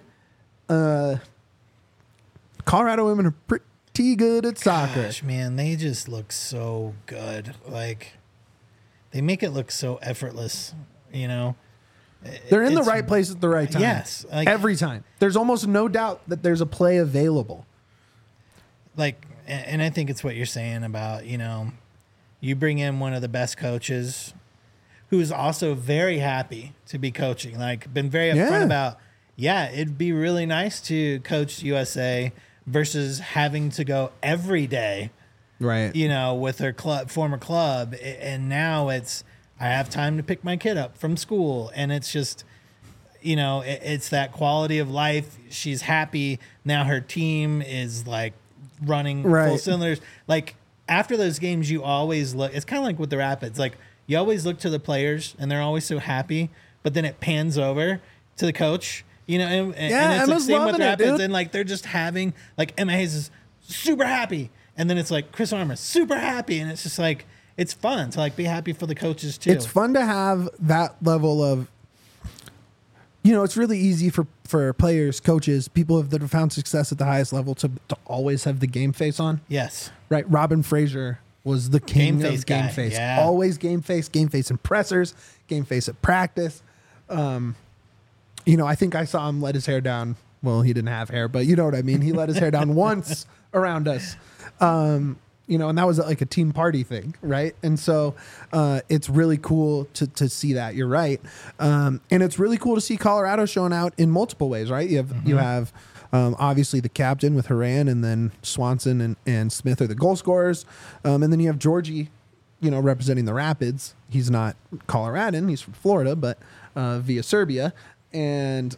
Colorado women are pretty good at soccer. Gosh, man, they just look so good. Like, they make it look so effortless, you know? They're in the It's- right place at the right time. Yes, like- every time. There's almost no doubt that there's a play available. Like, and I think it's what you're saying about, you know, you bring in one of the best coaches who's also very happy to be coaching, like been very upfront Yeah. about, yeah, it'd be really nice to coach USA versus having to go every day, Right. you know, with her former club. And now it's, I have time to pick my kid up from school. And it's just, you know, it's that quality of life. She's happy. Now her team is like running full Right. cylinders. Like, after those games, you always look, it's kind of like with the Rapids. Like, you always look to the players and they're always so happy, but then it pans over to the coach, you know, and Yeah, it's like Emma's same with loving it, Rapids. dude. And like, they're just having, like, Emma Hayes is super happy. And then it's like Chris Armour, super happy. And it's just like, it's fun to like be happy for the coaches too. It's fun to have that level of, you know, it's really easy for players, coaches, people that have found success at the highest level to always have the game face on. Yes. Right. Robin Fraser was the king Game face of game guy. face. Yeah. Always game face in pressers, game face at practice. You know, I think I saw him let his hair down. Well, he didn't have hair, but you know what I mean. He let his hair down once around us. You know, and that was like a team party thing, right? And so it's really cool to see that. You're right, and it's really cool to see Colorado showing out in multiple ways, right? You have obviously the captain with Haran, and then Swanson and Smith are the goal scorers, and then you have Georgie, you know, representing the Rapids. He's not Coloradan; he's from Florida, but via Serbia, and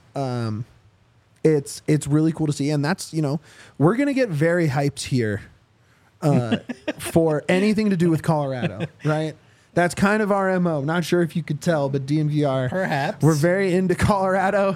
it's really cool to see. And that's, you know, we're gonna get very hyped here. For anything to do with Colorado, right? That's kind of our MO. Not sure if you could tell, but DNVR, Perhaps. we're very into Colorado,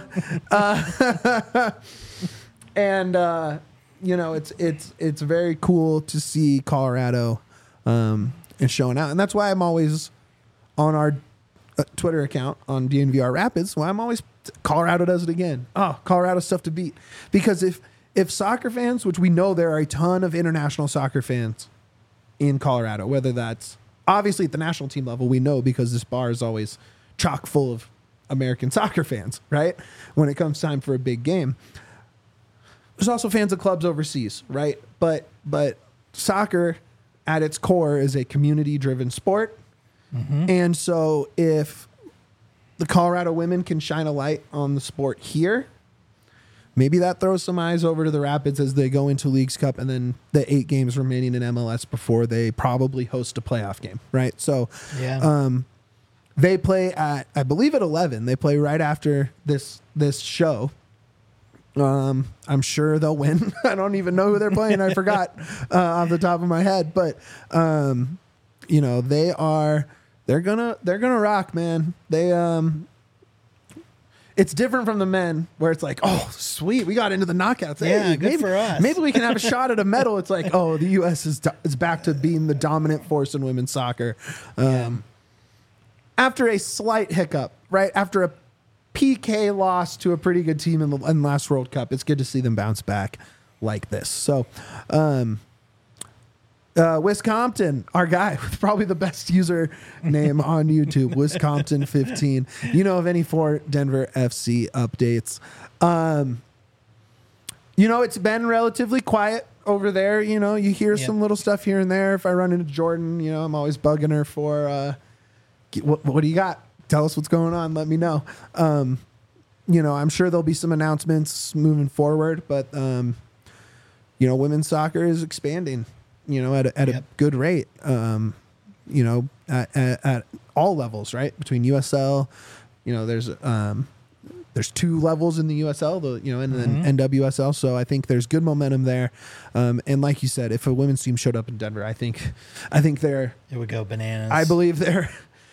and you know, it's very cool to see Colorado and showing out, and that's why I'm always on our Twitter account on DNVR Rapids. Why I'm always Colorado does it again. Oh, Colorado's tough to beat, because if soccer fans, which we know there are a ton of international soccer fans in Colorado, whether that's obviously at the national team level, we know because this bar is always chock full of American soccer fans, right? When it comes time for a big game. There's also fans of clubs overseas, right? But soccer at its core is a community-driven sport. Mm-hmm. And so if the Colorado women can shine a light on the sport here, maybe that throws some eyes over to the Rapids as they go into Leagues Cup and then the 8 games remaining in MLS before they probably host a playoff game, right? So Yeah. they play at, I believe at 11. They play right after this show. I'm sure they'll win. I don't even know who they're playing. I forgot off the top of my head, but you know, they're gonna rock, man. it's different from the men where it's like, oh, sweet, we got into the knockouts. Yeah, Hey, good maybe, for us. Maybe we can have a shot at a medal. It's like, oh, the U.S. is back to being the dominant force in women's soccer. After a slight hiccup, right? After a PK loss to a pretty good team in the last World Cup, it's good to see them bounce back like this. So, Wisconsin, our guy with probably the best user name on YouTube, Wisconsin15. You know of any for Denver FC updates? It's been relatively quiet over there. You hear some little stuff here and there. If I run into Jordan, I'm always bugging her for, what do you got? Tell us what's going on. Let me know. I'm sure there'll be some announcements moving forward, but, women's soccer is expanding, at a good rate, at all levels, right? Between USL, there's 2 levels in the USL, and then NWSL. So I think there's good momentum there. And like you said, if a women's team showed up in Denver, I think it would go bananas. I believe their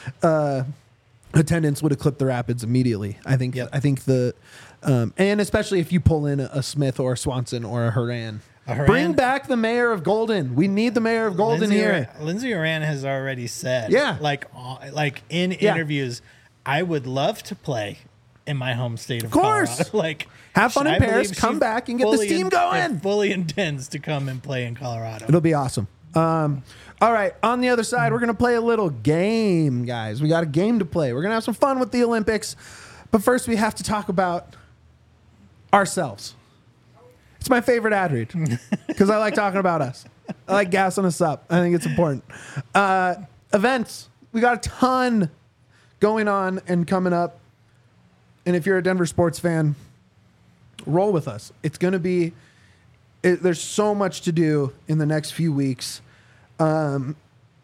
attendance would eclipse the Rapids immediately. I think the and especially if you pull in a Smith or a Swanson or a Horan. Bring back the mayor of Golden. We need the mayor of Golden here. Lindsay Horan has already said, like in interviews, I would love to play in my home state of course. Colorado. Have fun in Paris, come back and get this team going. Fully intends to come and play in Colorado. It'll be awesome. All right, on the other side, we're going to play a little game, guys. We got a game to play. We're going to have some fun with the Olympics. But first, we have to talk about ourselves. It's my favorite ad read because I like talking about us. I like gassing us up. I think it's important. Events. We got a ton going on and coming up. And if you're a Denver sports fan, roll with us. It's going to be, there's so much to do in the next few weeks. To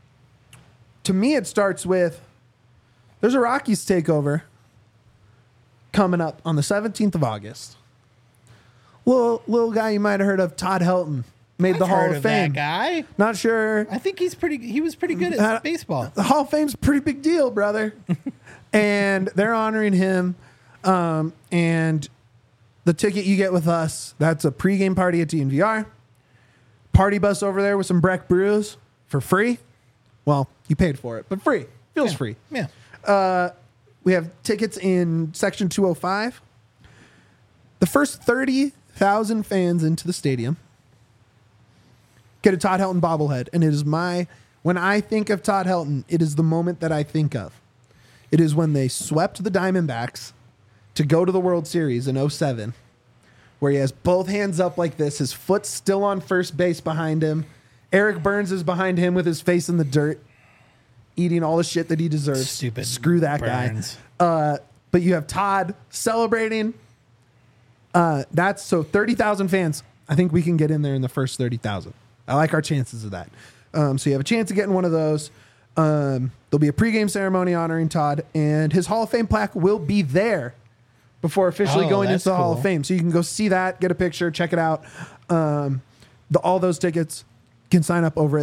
me, it starts with, there's a Rockies takeover coming up on the 17th of August. Little guy you might have heard of, Todd Helton, made the Hall of Fame. That guy? Not sure. I think he was pretty good at baseball. The Hall of Fame's a pretty big deal, brother. And they're honoring him. And the ticket you get with us, that's a pregame party at DNVR. Party bus over there with some Breck brews for free. Well, you paid for it, but free. Feels free. Yeah. We have tickets in section 205. The first 30,000 fans into the stadium get a Todd Helton bobblehead. And it is when I think of Todd Helton, it is the moment that I think of. It is when they swept the Diamondbacks to go to the World Series in 2007, where he has both hands up like this, his foot's still on first base behind him. Eric Burns is behind him with his face in the dirt, eating all the shit that he deserves. Stupid. Screw that Burns. guy. But you have Todd celebrating. That's so 30,000 fans. I think we can get in there in the first 30,000. I like our chances of that. So you have a chance of getting one of those. There'll be a pregame ceremony honoring Todd, and his Hall of Fame plaque will be there before officially going into the Hall of Fame. So you can go see that, get a picture, check it out. All those tickets can sign up over at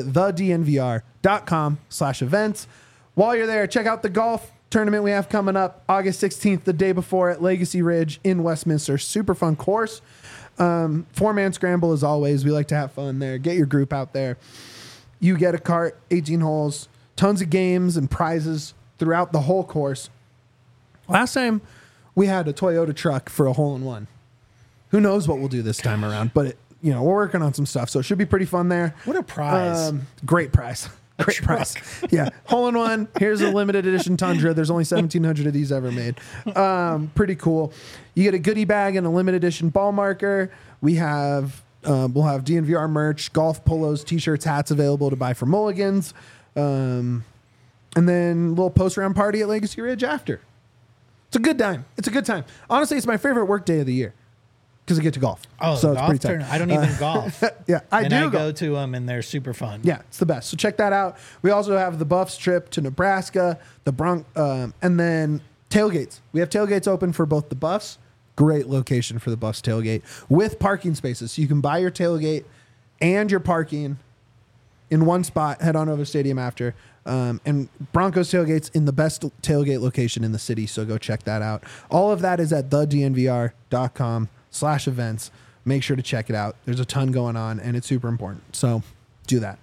thednvr.com/events. While you're there, check out the golf tournament we have coming up August 16th, the day before at Legacy Ridge in Westminster. Super fun course. 4-man scramble as always. We like to have fun there. Get your group out there. You get a cart, 18 holes, tons of games and prizes throughout the whole course. Last time we had a Toyota truck for a hole-in-one. Who knows what we'll do this time around, but we're working on some stuff, so it should be pretty fun there. What a prize. Great prize. Great price. Yeah. Hole-in-one. Here's a limited edition Tundra. There's only 1,700 of these ever made. Pretty cool. You get a goodie bag and a limited edition ball marker. We'll have DNVR merch, golf polos, t-shirts, hats available to buy for mulligans. And then a little post-round party at Legacy Ridge after. It's a good time. Honestly, it's my favorite work day of the year because I get to golf. Oh, so it's pretty tight. I don't even golf. Yeah, I go to them, and they're super fun. Yeah, it's the best. So check that out. We also have the Buffs trip to Nebraska, and then tailgates. We have tailgates open for both the Buffs. Great location for the Buffs tailgate with parking spaces. So you can buy your tailgate and your parking in one spot. Head on over to the stadium after. And Broncos tailgates in the best tailgate location in the city. So go check that out. All of that is at thednvr.com/events. Make sure to check it out. There's a ton going on and it's super important. So do that.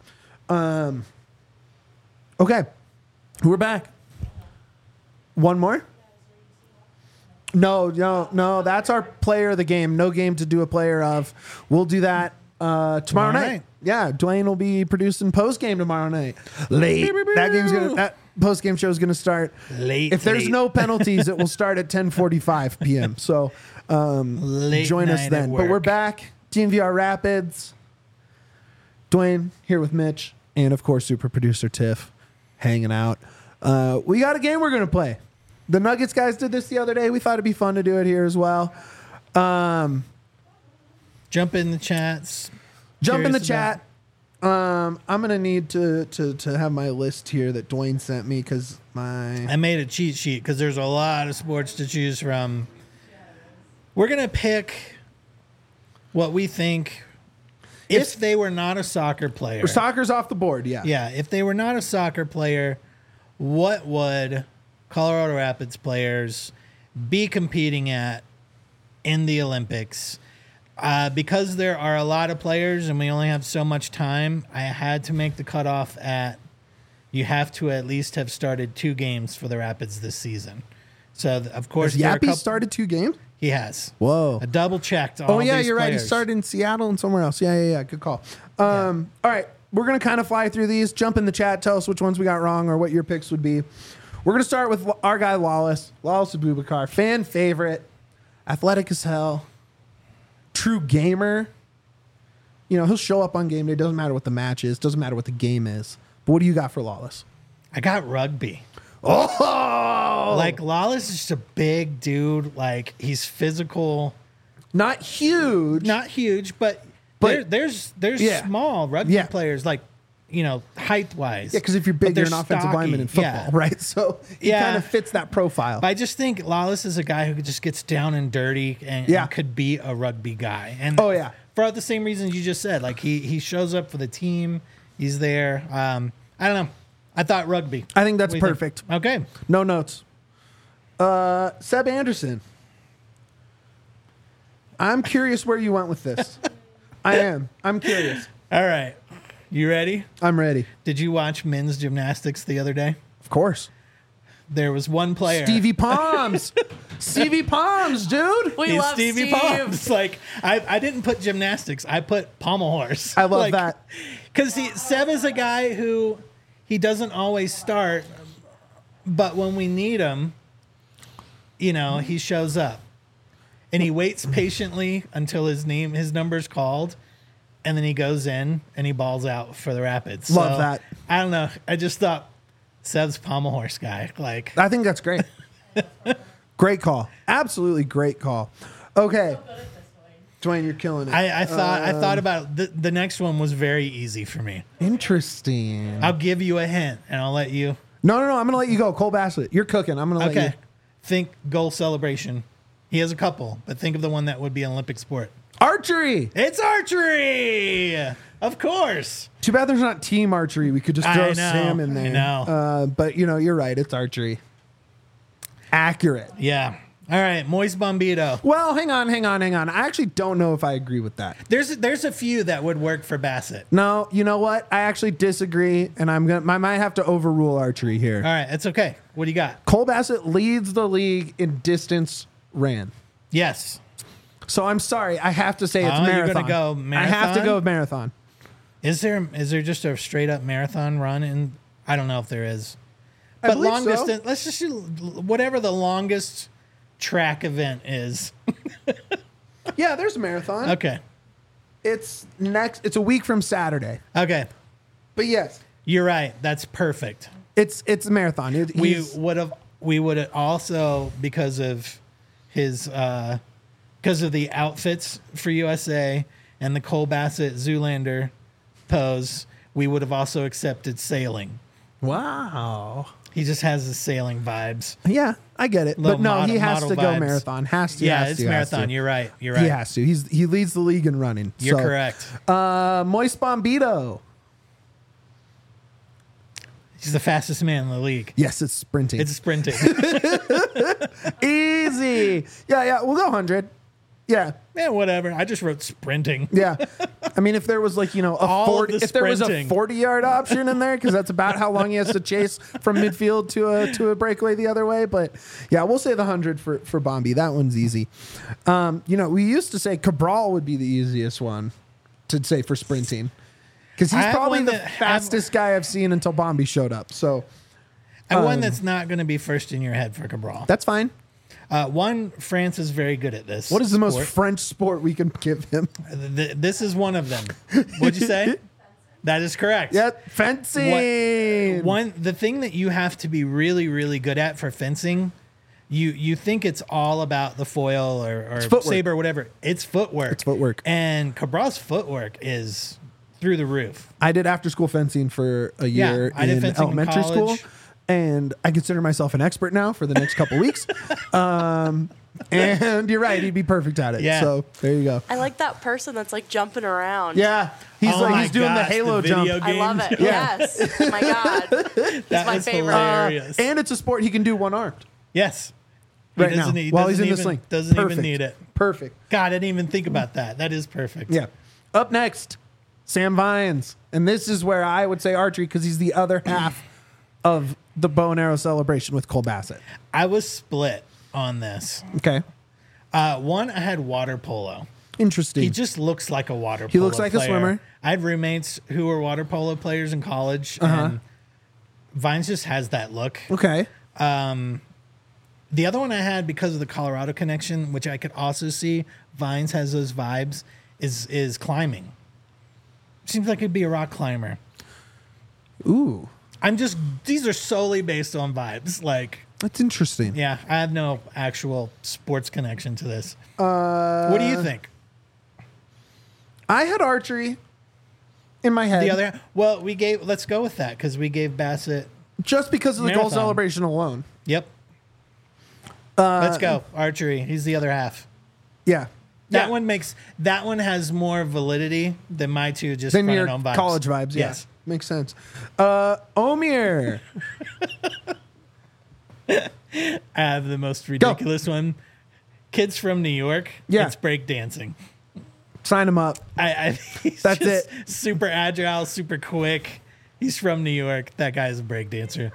Okay. We're back. One more? No. That's our player of the game. No game to do a player of. We'll do that tomorrow night. Yeah, Dwayne will be producing post game tomorrow night. Late. That post game show is gonna start late. If there's no penalties, it will start at 10:45 p.m. So join us then. But we're back. DNVR Rapids. Dwayne here with Mitch and of course super producer Tiff hanging out. We got a game we're gonna play. The Nuggets guys did this the other day. We thought it'd be fun to do it here as well. Jump in the chats. Jump in the chat. I'm gonna need to have my list here that Dwayne sent me because I made a cheat sheet because there's a lot of sports to choose from. We're gonna pick what we think if they were not a soccer player. Soccer's off the board, yeah. Yeah, if they were not a soccer player, what would Colorado Rapids players be competing at in the Olympics? Because there are a lot of players and we only have so much time, I had to make the cutoff at you have to at least have started 2 games for the Rapids this season. So, of course, has Yappy started 2 games? He has. Whoa. I double-checked all these you're right. He players. started in Seattle and somewhere else. Yeah. Good call. All right. We're going to kind of fly through these. Jump in the chat. Tell us which ones we got wrong or what your picks would be. We're going to start with our guy, Lawless Abubakar. Fan favorite. Athletic as hell. True gamer. You know, he'll show up on game day. Doesn't matter what the match is. Doesn't matter what the game is. But what do you got for Lawless? I got rugby. Oh! Like, Lawless is just a big dude. Like, he's physical. Not huge. But there's small rugby players, like, you know, height-wise. Yeah, because if you're big, you're an offensive lineman in football, right? So he kind of fits that profile. But I just think Lawless is a guy who just gets down and dirty and could be a rugby guy. And for the same reasons you just said. Like, he shows up for the team. He's there. I don't know. I thought rugby. I think that's perfect. Okay. No notes. Seb Anderson. I'm curious where you went with this. I am. I'm curious. All right. You ready? I'm ready. Did you watch men's gymnastics the other day? Of course. There was one player. Stevie Palms. Stevie Palms, dude. We love Stevie Palms. Like, I didn't put gymnastics. I put pommel horse. I love that. Because Seb is a guy who he doesn't always start, but when we need him, you know, he shows up. And he waits patiently until his number's called. And then he goes in and he balls out for the Rapids. Love that. I don't know. I just thought Seb's pommel horse guy. Like, I think that's great. Great call. Absolutely great call. Okay. Dwayne, you're killing it. I thought about the next one was very easy for me. Interesting. I'll give you a hint and I'll let you. No. I'm going to let you go. Cole Bassett. You're cooking. I'm going to let you. Think goal celebration. He has a couple, but think of the one that would be an Olympic sport. Archery. It's archery. Of course. Too bad there's not team archery. We could just throw Sam in there. I know. But, you know, you're right. It's archery. Accurate. Yeah. All right. Moist Bombito. Well, hang on. I actually don't know if I agree with that. There's a few that would work for Bassett. No, you know what? I actually disagree, and I might have to overrule archery here. All right. It's okay. What do you got? Cole Bassett leads the league in distance ran. Yes. So I'm sorry. I have to say it's marathon. You're going to go marathon? I have to go with marathon. Is there just a straight up marathon run? And I don't know if there is. I But believe long so. distance, let's just do whatever the longest track event is. Yeah, there's a marathon. Okay. It's a week from Saturday. Okay. But yes, You're right. That's perfect. it's a marathon. We would have also, because of his because of the outfits for USA and the Cole Bassett Zoolander pose, we would have also accepted sailing. Wow. He just has the sailing vibes. Yeah, I get it. Little But no, he has model to go vibes. marathon. Has to. Yeah, has it's to, has marathon. to. You're right. You're He right. has to. He leads the league in running. You're So, correct. Moist Bombito. He's the fastest man in the league. Yes, it's sprinting. It's sprinting. Easy. Yeah. We'll go 100. Yeah. Yeah, whatever. I just wrote sprinting. Yeah. I mean, if there was like, a All 40, of the if there was a sprinting. 40-yard option in there, because that's about how long he has to chase from midfield to a breakaway the other way. But yeah, we'll say the 100 for Bombi. That one's easy. We used to say Cabral would be the easiest one to say for sprinting, because he's I have probably one the that- fastest guy I've seen until Bombi showed up. So And one that's not going to be first in your head for Cabral. that's fine. One, France is very good at this. What is the most sport. French sport we can give him? This is one of them. What'd you say? That is correct. Yep, fencing. The thing that you have to be really, really good at for fencing, you think it's all about the foil or footwork. saber or whatever. It's footwork. It's footwork. And Cabral's footwork is through the roof. I did after school fencing for a Yeah, year I did in fencing in elementary school, college. and I consider myself an expert now for the next couple weeks. And you're right, he'd be perfect at it. Yeah. So there you go. I like that person that's like jumping around. Yeah, he's Oh my he's doing the gosh, Halo video jump. I love it. Yeah. Yes. Oh my God. It's That my was favorite. hilarious. And it's a sport he can do one armed Yes. right now doesn't- he while he's doesn't in the even- sling. Doesn't Perfect. even need it. Perfect. God, I didn't even think about that. That is perfect. Yeah. Up next, Sam Vines, and this is where I would say archery because he's the other half of the bow and arrow celebration with Cole Bassett. I was split on this. Okay, One, I had water polo. interesting. He just looks like a water polo He looks like a player. swimmer. I had roommates who were water polo players in college, and Vines just has that look. Okay, The other one I had, because of the Colorado connection, which I could also see, Vines has those vibes, is climbing. Seems like he'd be a rock climber. ooh, These are solely based on vibes. Like, that's interesting. yeah, I have no actual sports connection to this. What do you think? I had archery in my head. The other, well, let's go with that because we gave Bassett. just because of the goal Marathon. celebration alone. Yep. Let's go archery. He's the other half. Yeah. That one has more validity than my two just Then running your on vibes. college vibes. Yeah. Yes. Makes sense. Omir. I have the most ridiculous one. Kids from New York. Yeah. It's breakdancing. Sign him up. He's That's just it. super agile, super quick. He's from New York. That guy's a breakdancer.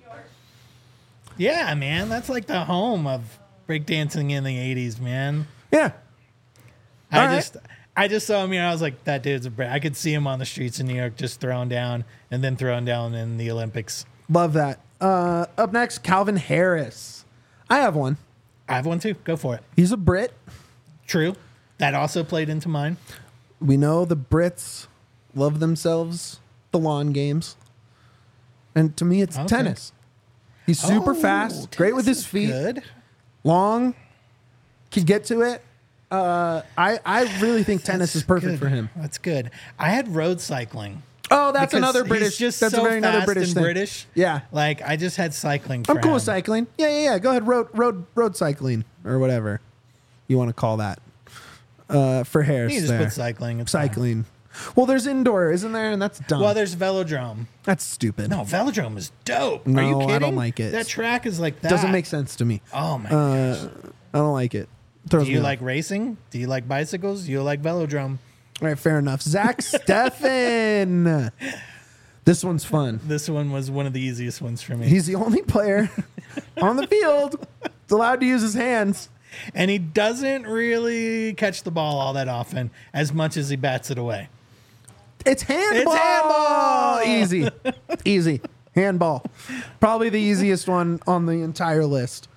Yeah, man. That's like the home of breakdancing in the 80s, man. Yeah. All I right. just saw him here. I was like, that dude's a break. I could see him on the streets in New York just throwing down and then throwing down in the Olympics. Love that. Up next, Calvin Harris. I have one. I have one too. Go for it. He's a Brit. True. That also played into mine. We know the Brits love themselves the lawn games. And to me, it's Okay. tennis. He's super Oh, fast, great with tennis his is feet, Good. long, can get to it. I really think tennis is perfect Good. for him. That's good. I had road cycling. Oh, that's Because another he's British. just That's so a very another fast British and thing. British. Yeah, Like I just had cycling. For I'm cool him. with cycling. Yeah. Go ahead, road cycling or whatever you want to call that. For Harris, You can just there. put cycling. It's fine. cycling. Well, there's indoor, isn't there? And that's dumb. Well, there's velodrome. That's stupid. No, velodrome is dope. No, Are you I kidding? don't like it. That track is like that. Doesn't make sense to me. Oh my gosh. I don't like it. Throws Do you me off. like racing? Do you like bicycles? Do you like velodrome? All right, fair enough. Zach Steffen. This one's fun. This one was one of the easiest ones for me. He's the only player on the field that's allowed to use his hands. And he doesn't really catch the ball all that often, as much as he bats it away. It's handball. It's handball! Easy. Easy. Handball. Probably the easiest one on the entire list.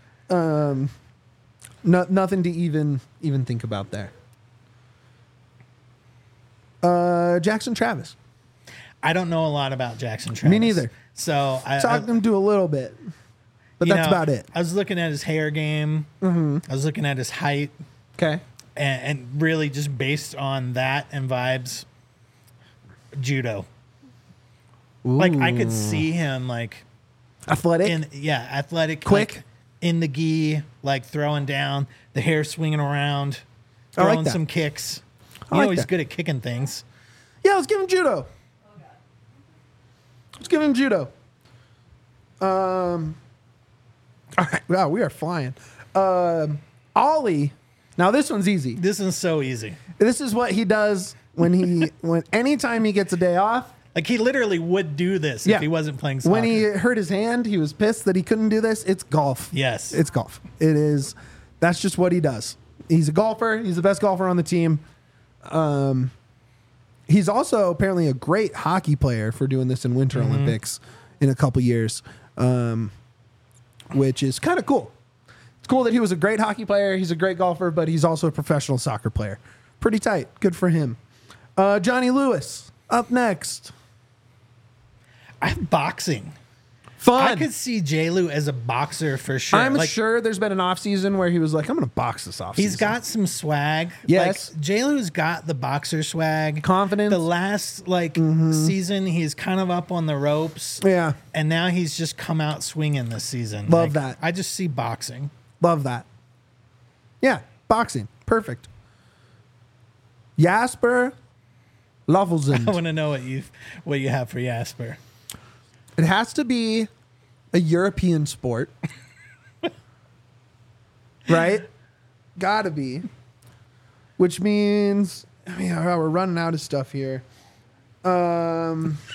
Nothing to even think about there. Jackson Travis. I don't know a lot about Jackson Travis. Me neither. So Talked him to a little bit, but you that's know, about it. I was looking at his hair game. I was looking at his height, Okay. and really just based on that and vibes, judo. Like I could see him like Athletic. athletic, Quick. like, in the gi, like throwing down, the hair swinging around, I like throwing that. some kicks. I You know like he's that. good at kicking things. Yeah, let's give him judo. Let's give him judo. All right. Wow, we are flying. Ollie. Now this one's easy. This is so easy. This is what he does when anytime he gets a day off. Like he literally would do this Yeah. if he wasn't playing soccer. When he hurt his hand, he was pissed that he couldn't do this. It's golf. Yes. It's golf. It is. That's just what he does. He's a golfer. He's the best golfer on the team. He's also apparently a great hockey player for doing this in Winter Olympics in a couple years, which is kind of cool. It's cool that he was a great hockey player. He's a great golfer, but he's also a professional soccer player. Pretty tight. Good for him. Johnny Lewis up next. I have boxing. Fun. I could see J-Lu as a boxer for sure. I'm Like, sure there's been an off season where he was like, I'm going to box this off he's got some swag. Yes. Like, J-Lu's got the boxer swag. Confidence. The last season, he's kind of up on the ropes. Yeah. And now he's just come out swinging this season. Love that. I just see boxing. Love that. Yeah. Boxing. Perfect. Jasper I Lovelzund. want to know what you have for Jasper. It has to be a European sport. Right? Gotta be. Which means, I mean, we're running out of stuff here. I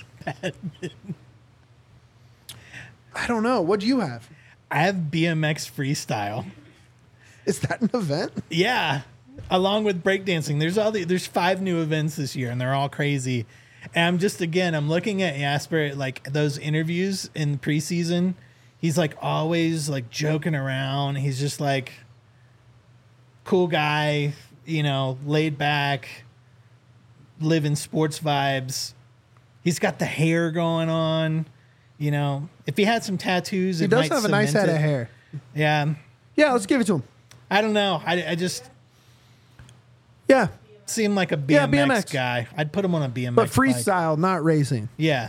don't know. What do you have? I have BMX freestyle. Is that an event? Yeah, along with breakdancing. There's 5 new events this year, and they're all crazy. And I'm looking at Jasper, like those interviews in preseason. He's like always like joking around. He's just like cool guy, laid back, living sports vibes. He's got the hair going on. If he had some tattoos, He does have a nice head of hair. Yeah, Yeah, let's give it to him. I don't know. I just Yeah. seem like a BMX, Yeah, BMX. guy. I'd put him on a BMX. But bike. freestyle, not racing. Yeah.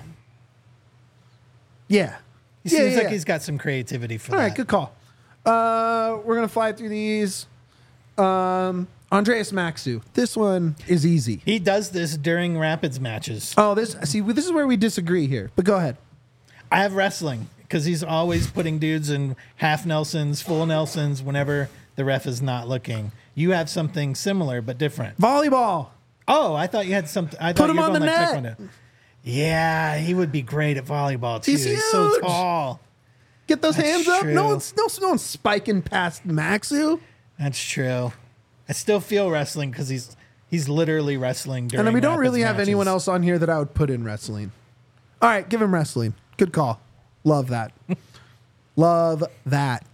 Yeah. He Yeah, seems yeah, like yeah. he's got some creativity for All that. right, good call. We're going to fly through these. Andreas Maxu. This one is easy. He does this during Rapids matches. Oh, this is where we disagree here. But go ahead. I have wrestling because he's always putting dudes in half Nelsons, full Nelsons whenever the ref is not looking. You have something similar but different. Volleyball. Oh, I thought you had something. I thought Put him you were on the going like net. Taekwondo. Yeah, he would be great at volleyball too. He's so huge. tall. Get those That's hands up. true. No one's spiking past Maxu. That's true. I still feel wrestling because he's literally wrestling during. And then we don't Rapids really have matches. anyone else on here that I would put in wrestling. All right, give him wrestling. Good call. Love that. Love that.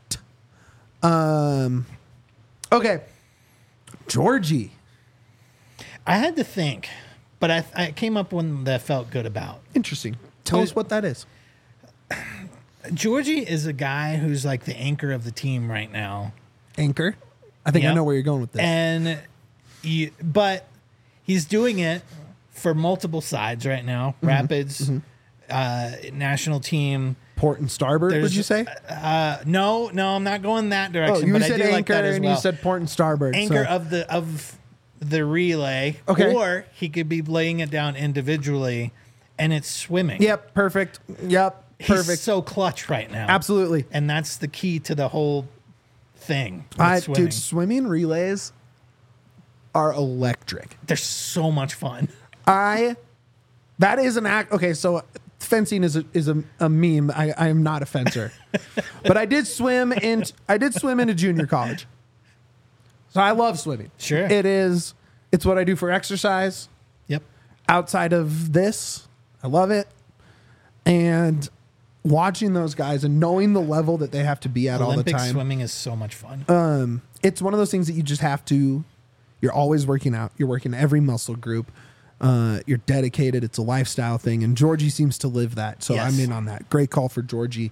Okay. Georgie. I had to think, but I came up with one that I felt good about. Interesting. Tell us what that is. Georgie is a guy who's like the anchor of the team right now. Anchor. I think I Yep. know where you're going with this. And but he's doing it for multiple sides right now. Mm-hmm. Rapids, national team. Port and starboard, would There's- you say? No, I'm not going that Oh, direction. you but said I do anchor like that as and well. you said port and starboard. Anchor so- of the relay. Okay. Or he could be laying it down individually, and it's swimming. Yep, perfect. Yep, He's perfect. so clutch right now. Absolutely. And that's the key to the whole thing. with swimming. Dude, swimming relays are electric. They're so much fun. That is an act. Okay, so fencing is a meme. I am not a fencer, but I did swim in a junior college, so I love swimming. Sure. It's what I do for exercise. Yep. Outside of this, I love it, and watching those guys and knowing the level that they have to be at Olympic all the time. swimming is so much fun. It's one of those things that you just have to. You're always working out. You're working every muscle group. You're dedicated. It's a lifestyle thing, and Georgie seems to live that. So Yes. I'm in on that. Great call for Georgie.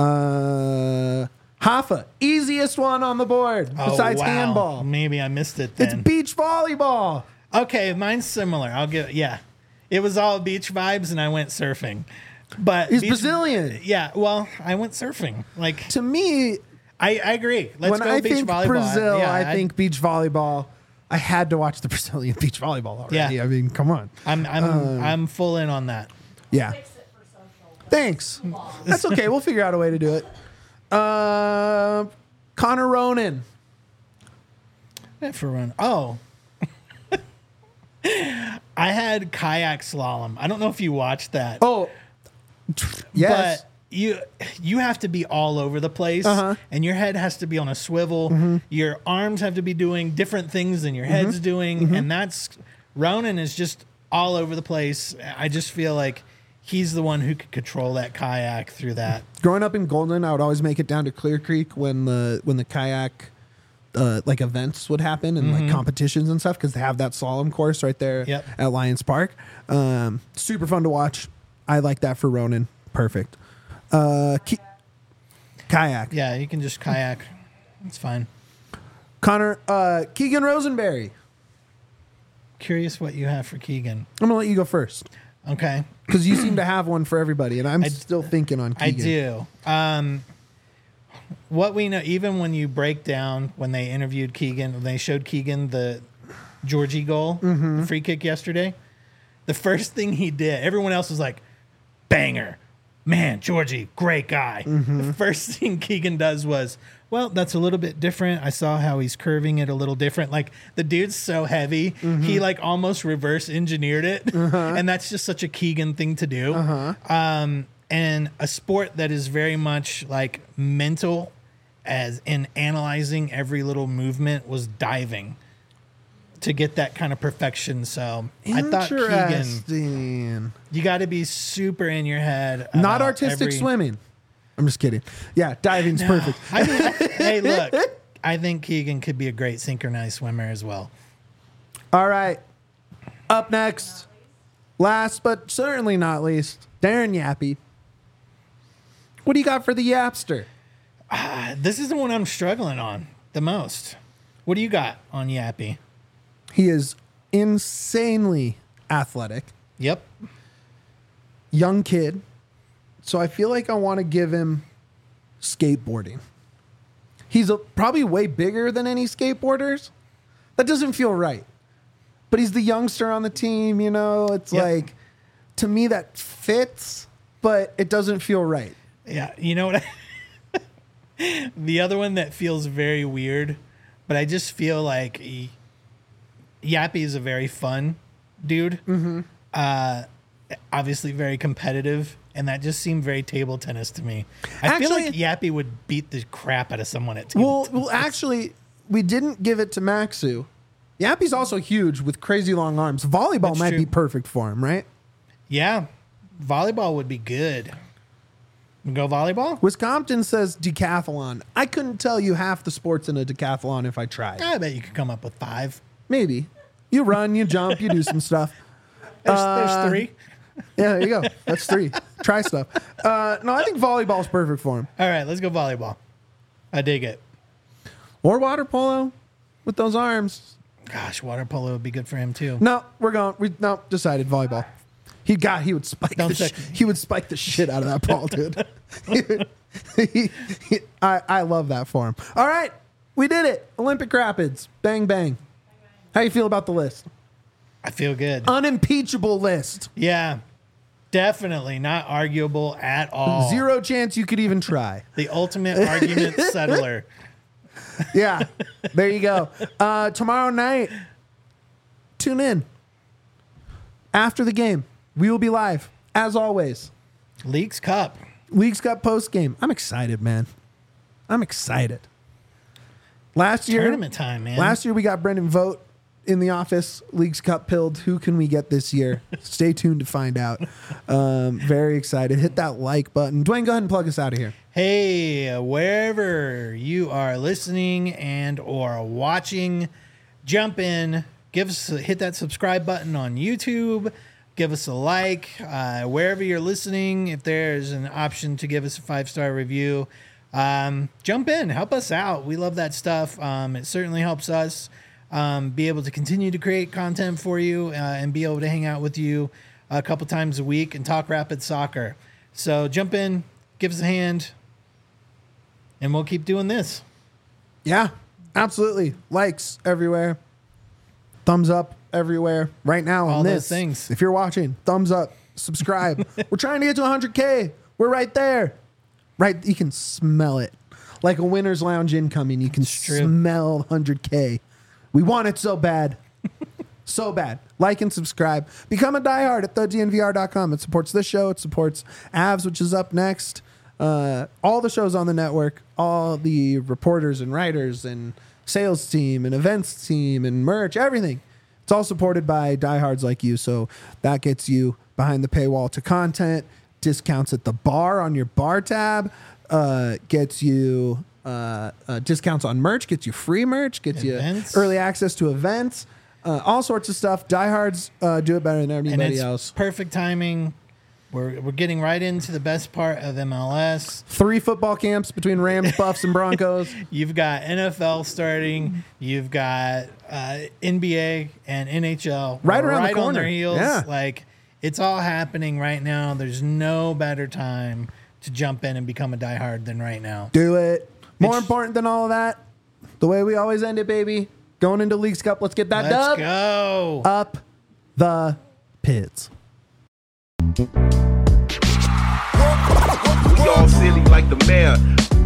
Hoffa, easiest one on the board besides Oh, wow. handball. Maybe I missed it It's then. beach volleyball. Okay, mine's similar. It was all beach vibes, and I went surfing. But He's beach- Brazilian. Yeah, well, I went surfing. Like To me, I agree. Let's when go I beach think volleyball. Brazil, Yeah, I think beach volleyball. I had to watch the Brazilian beach volleyball already. Yeah. I mean, come on. I'm full in on that. Yeah. Thanks. That's okay. We'll figure out a way to do it. Connor Ronan. For run. Oh. I had kayak slalom. I don't know if you watched that. Oh, yes. But you have to be all over the place, and your head has to be on a swivel. Your arms have to be doing different things than your head's doing, and Ronan is just all over the place. I just feel like he's the one who could control that kayak through that. Growing up in Golden, I would always make it down to Clear Creek when the kayak like events would happen and like competitions and stuff, because they have that slalom course right there at Lions Park. Super fun to watch. I like that for Ronan. Perfect. Kayak. Yeah, you can just kayak. It's fine. Connor, Keegan Rosenberry. Curious what you have for Keegan. I'm gonna let you go first Okay. because you seem to have one for everybody, and I'm still thinking on Keegan. I do. What we know, even when you break down when they interviewed Keegan, when they showed Keegan the Georgie goal, the free kick yesterday, the first thing he did, everyone else was like, banger. Man, Georgie, great guy. The first thing Keegan does was, well, that's a little bit different. I saw how he's curving it a little different. Like, the dude's so heavy, he like almost reverse engineered it. And that's just such a Keegan thing to do. And a sport that is very much like mental, as in analyzing every little movement, was diving to get that kind of perfection. So I thought Keegan, you got to be super in your head. Not artistic swimming. I'm just kidding. Yeah, diving's perfect. I mean, hey, look, I think Keegan could be a great synchronized swimmer as well. All right. Up next, last but certainly not least, Darren Yappy. What do you got for the Yapster? This is the one I'm struggling on the most. What do you got on Yappy? He is insanely athletic. Yep. Young kid. So I feel like I want to give him skateboarding. He's probably way bigger than any skateboarders. That doesn't feel right. But he's the youngster on the team, you know? It's like, to me, that fits, but it doesn't feel right. Yeah, you know what? The other one that feels very weird, but I just feel like Yappy is a very fun dude. Obviously very competitive, and that just seemed very table tennis to me. I feel like Yappy would beat the crap out of someone at table tennis. Well, actually, we didn't give it to Maxu. Yappy's also huge with crazy long arms. Volleyball might be perfect for him, right? Yeah, volleyball would be good. Go volleyball? Wisconsin says decathlon. I couldn't tell you half the sports in a decathlon if I tried. I bet you could come up with 5. Maybe. You run, you jump, you do some stuff. There's 3. Yeah, there you go. That's 3. Try stuff. No, I think volleyball's perfect for him. All right, let's go volleyball. I dig it. Or water polo with those arms. Gosh, water polo would be good for him too. No, we're going. Decided volleyball. He would spike he would spike the shit out of that ball, dude. I love that for him. All right, we did it. Olympic Rapids. Bang bang. How you feel about the list? I feel good. Unimpeachable list. Yeah, definitely not arguable at all. Zero chance you could even try. The ultimate argument settler. Yeah, there you go. Tomorrow night, tune in. After the game, we will be live, as always. Leagues Cup post game. I'm excited, man. I'm excited. Last year, tournament time, man. Last year we got Brendan Vogt in the office. Leagues Cup pilled. Who can we get this year? Stay tuned to find out. Very excited. Hit that like button. Dwayne, go ahead and plug us out of here. Hey, wherever you are listening and or watching, jump in. Hit that subscribe button on YouTube. Give us a like. Wherever you're listening, if there's an option to give us a 5-star review, jump in. Help us out. We love that stuff. It certainly helps us be able to continue to create content for you and be able to hang out with you a couple times a week and talk Rapid Soccer. So jump in, give us a hand, and we'll keep doing this. Yeah, absolutely. Likes everywhere. Thumbs up everywhere. Right now on all this. those things. If you're watching, thumbs up, subscribe. We're trying to get to 100K. We're right there. Right, you can smell it. Like a winner's lounge incoming, you can true. smell 100K. We want it so bad. So bad. Like and subscribe. Become a diehard at thednvr.com. It supports this show. It supports Avs, which is up next. All the shows on the network, all the reporters and writers and sales team and events team and merch, everything. It's all supported by diehards like you. So that gets you behind the paywall to content, discounts at the bar on your bar tab, gets you discounts on merch, gets you free merch, gets Events. you early access to events, all sorts of stuff. Diehards do it better than And anybody it's else. perfect timing. We're getting right into the best part of MLS. 3 football camps between Rams, Buffs, and Broncos. You've got NFL starting. You've got NBA and NHL Right around the on corner. their heels. Yeah. Like, it's all happening right now. There's no better time to jump in and become a diehard than right now. Do it. More It's- important than all of that, the way we always end it, baby. Going into Leagues Cup. Let's get that Let's dub. go. Up the pits. We all silly like the mayor.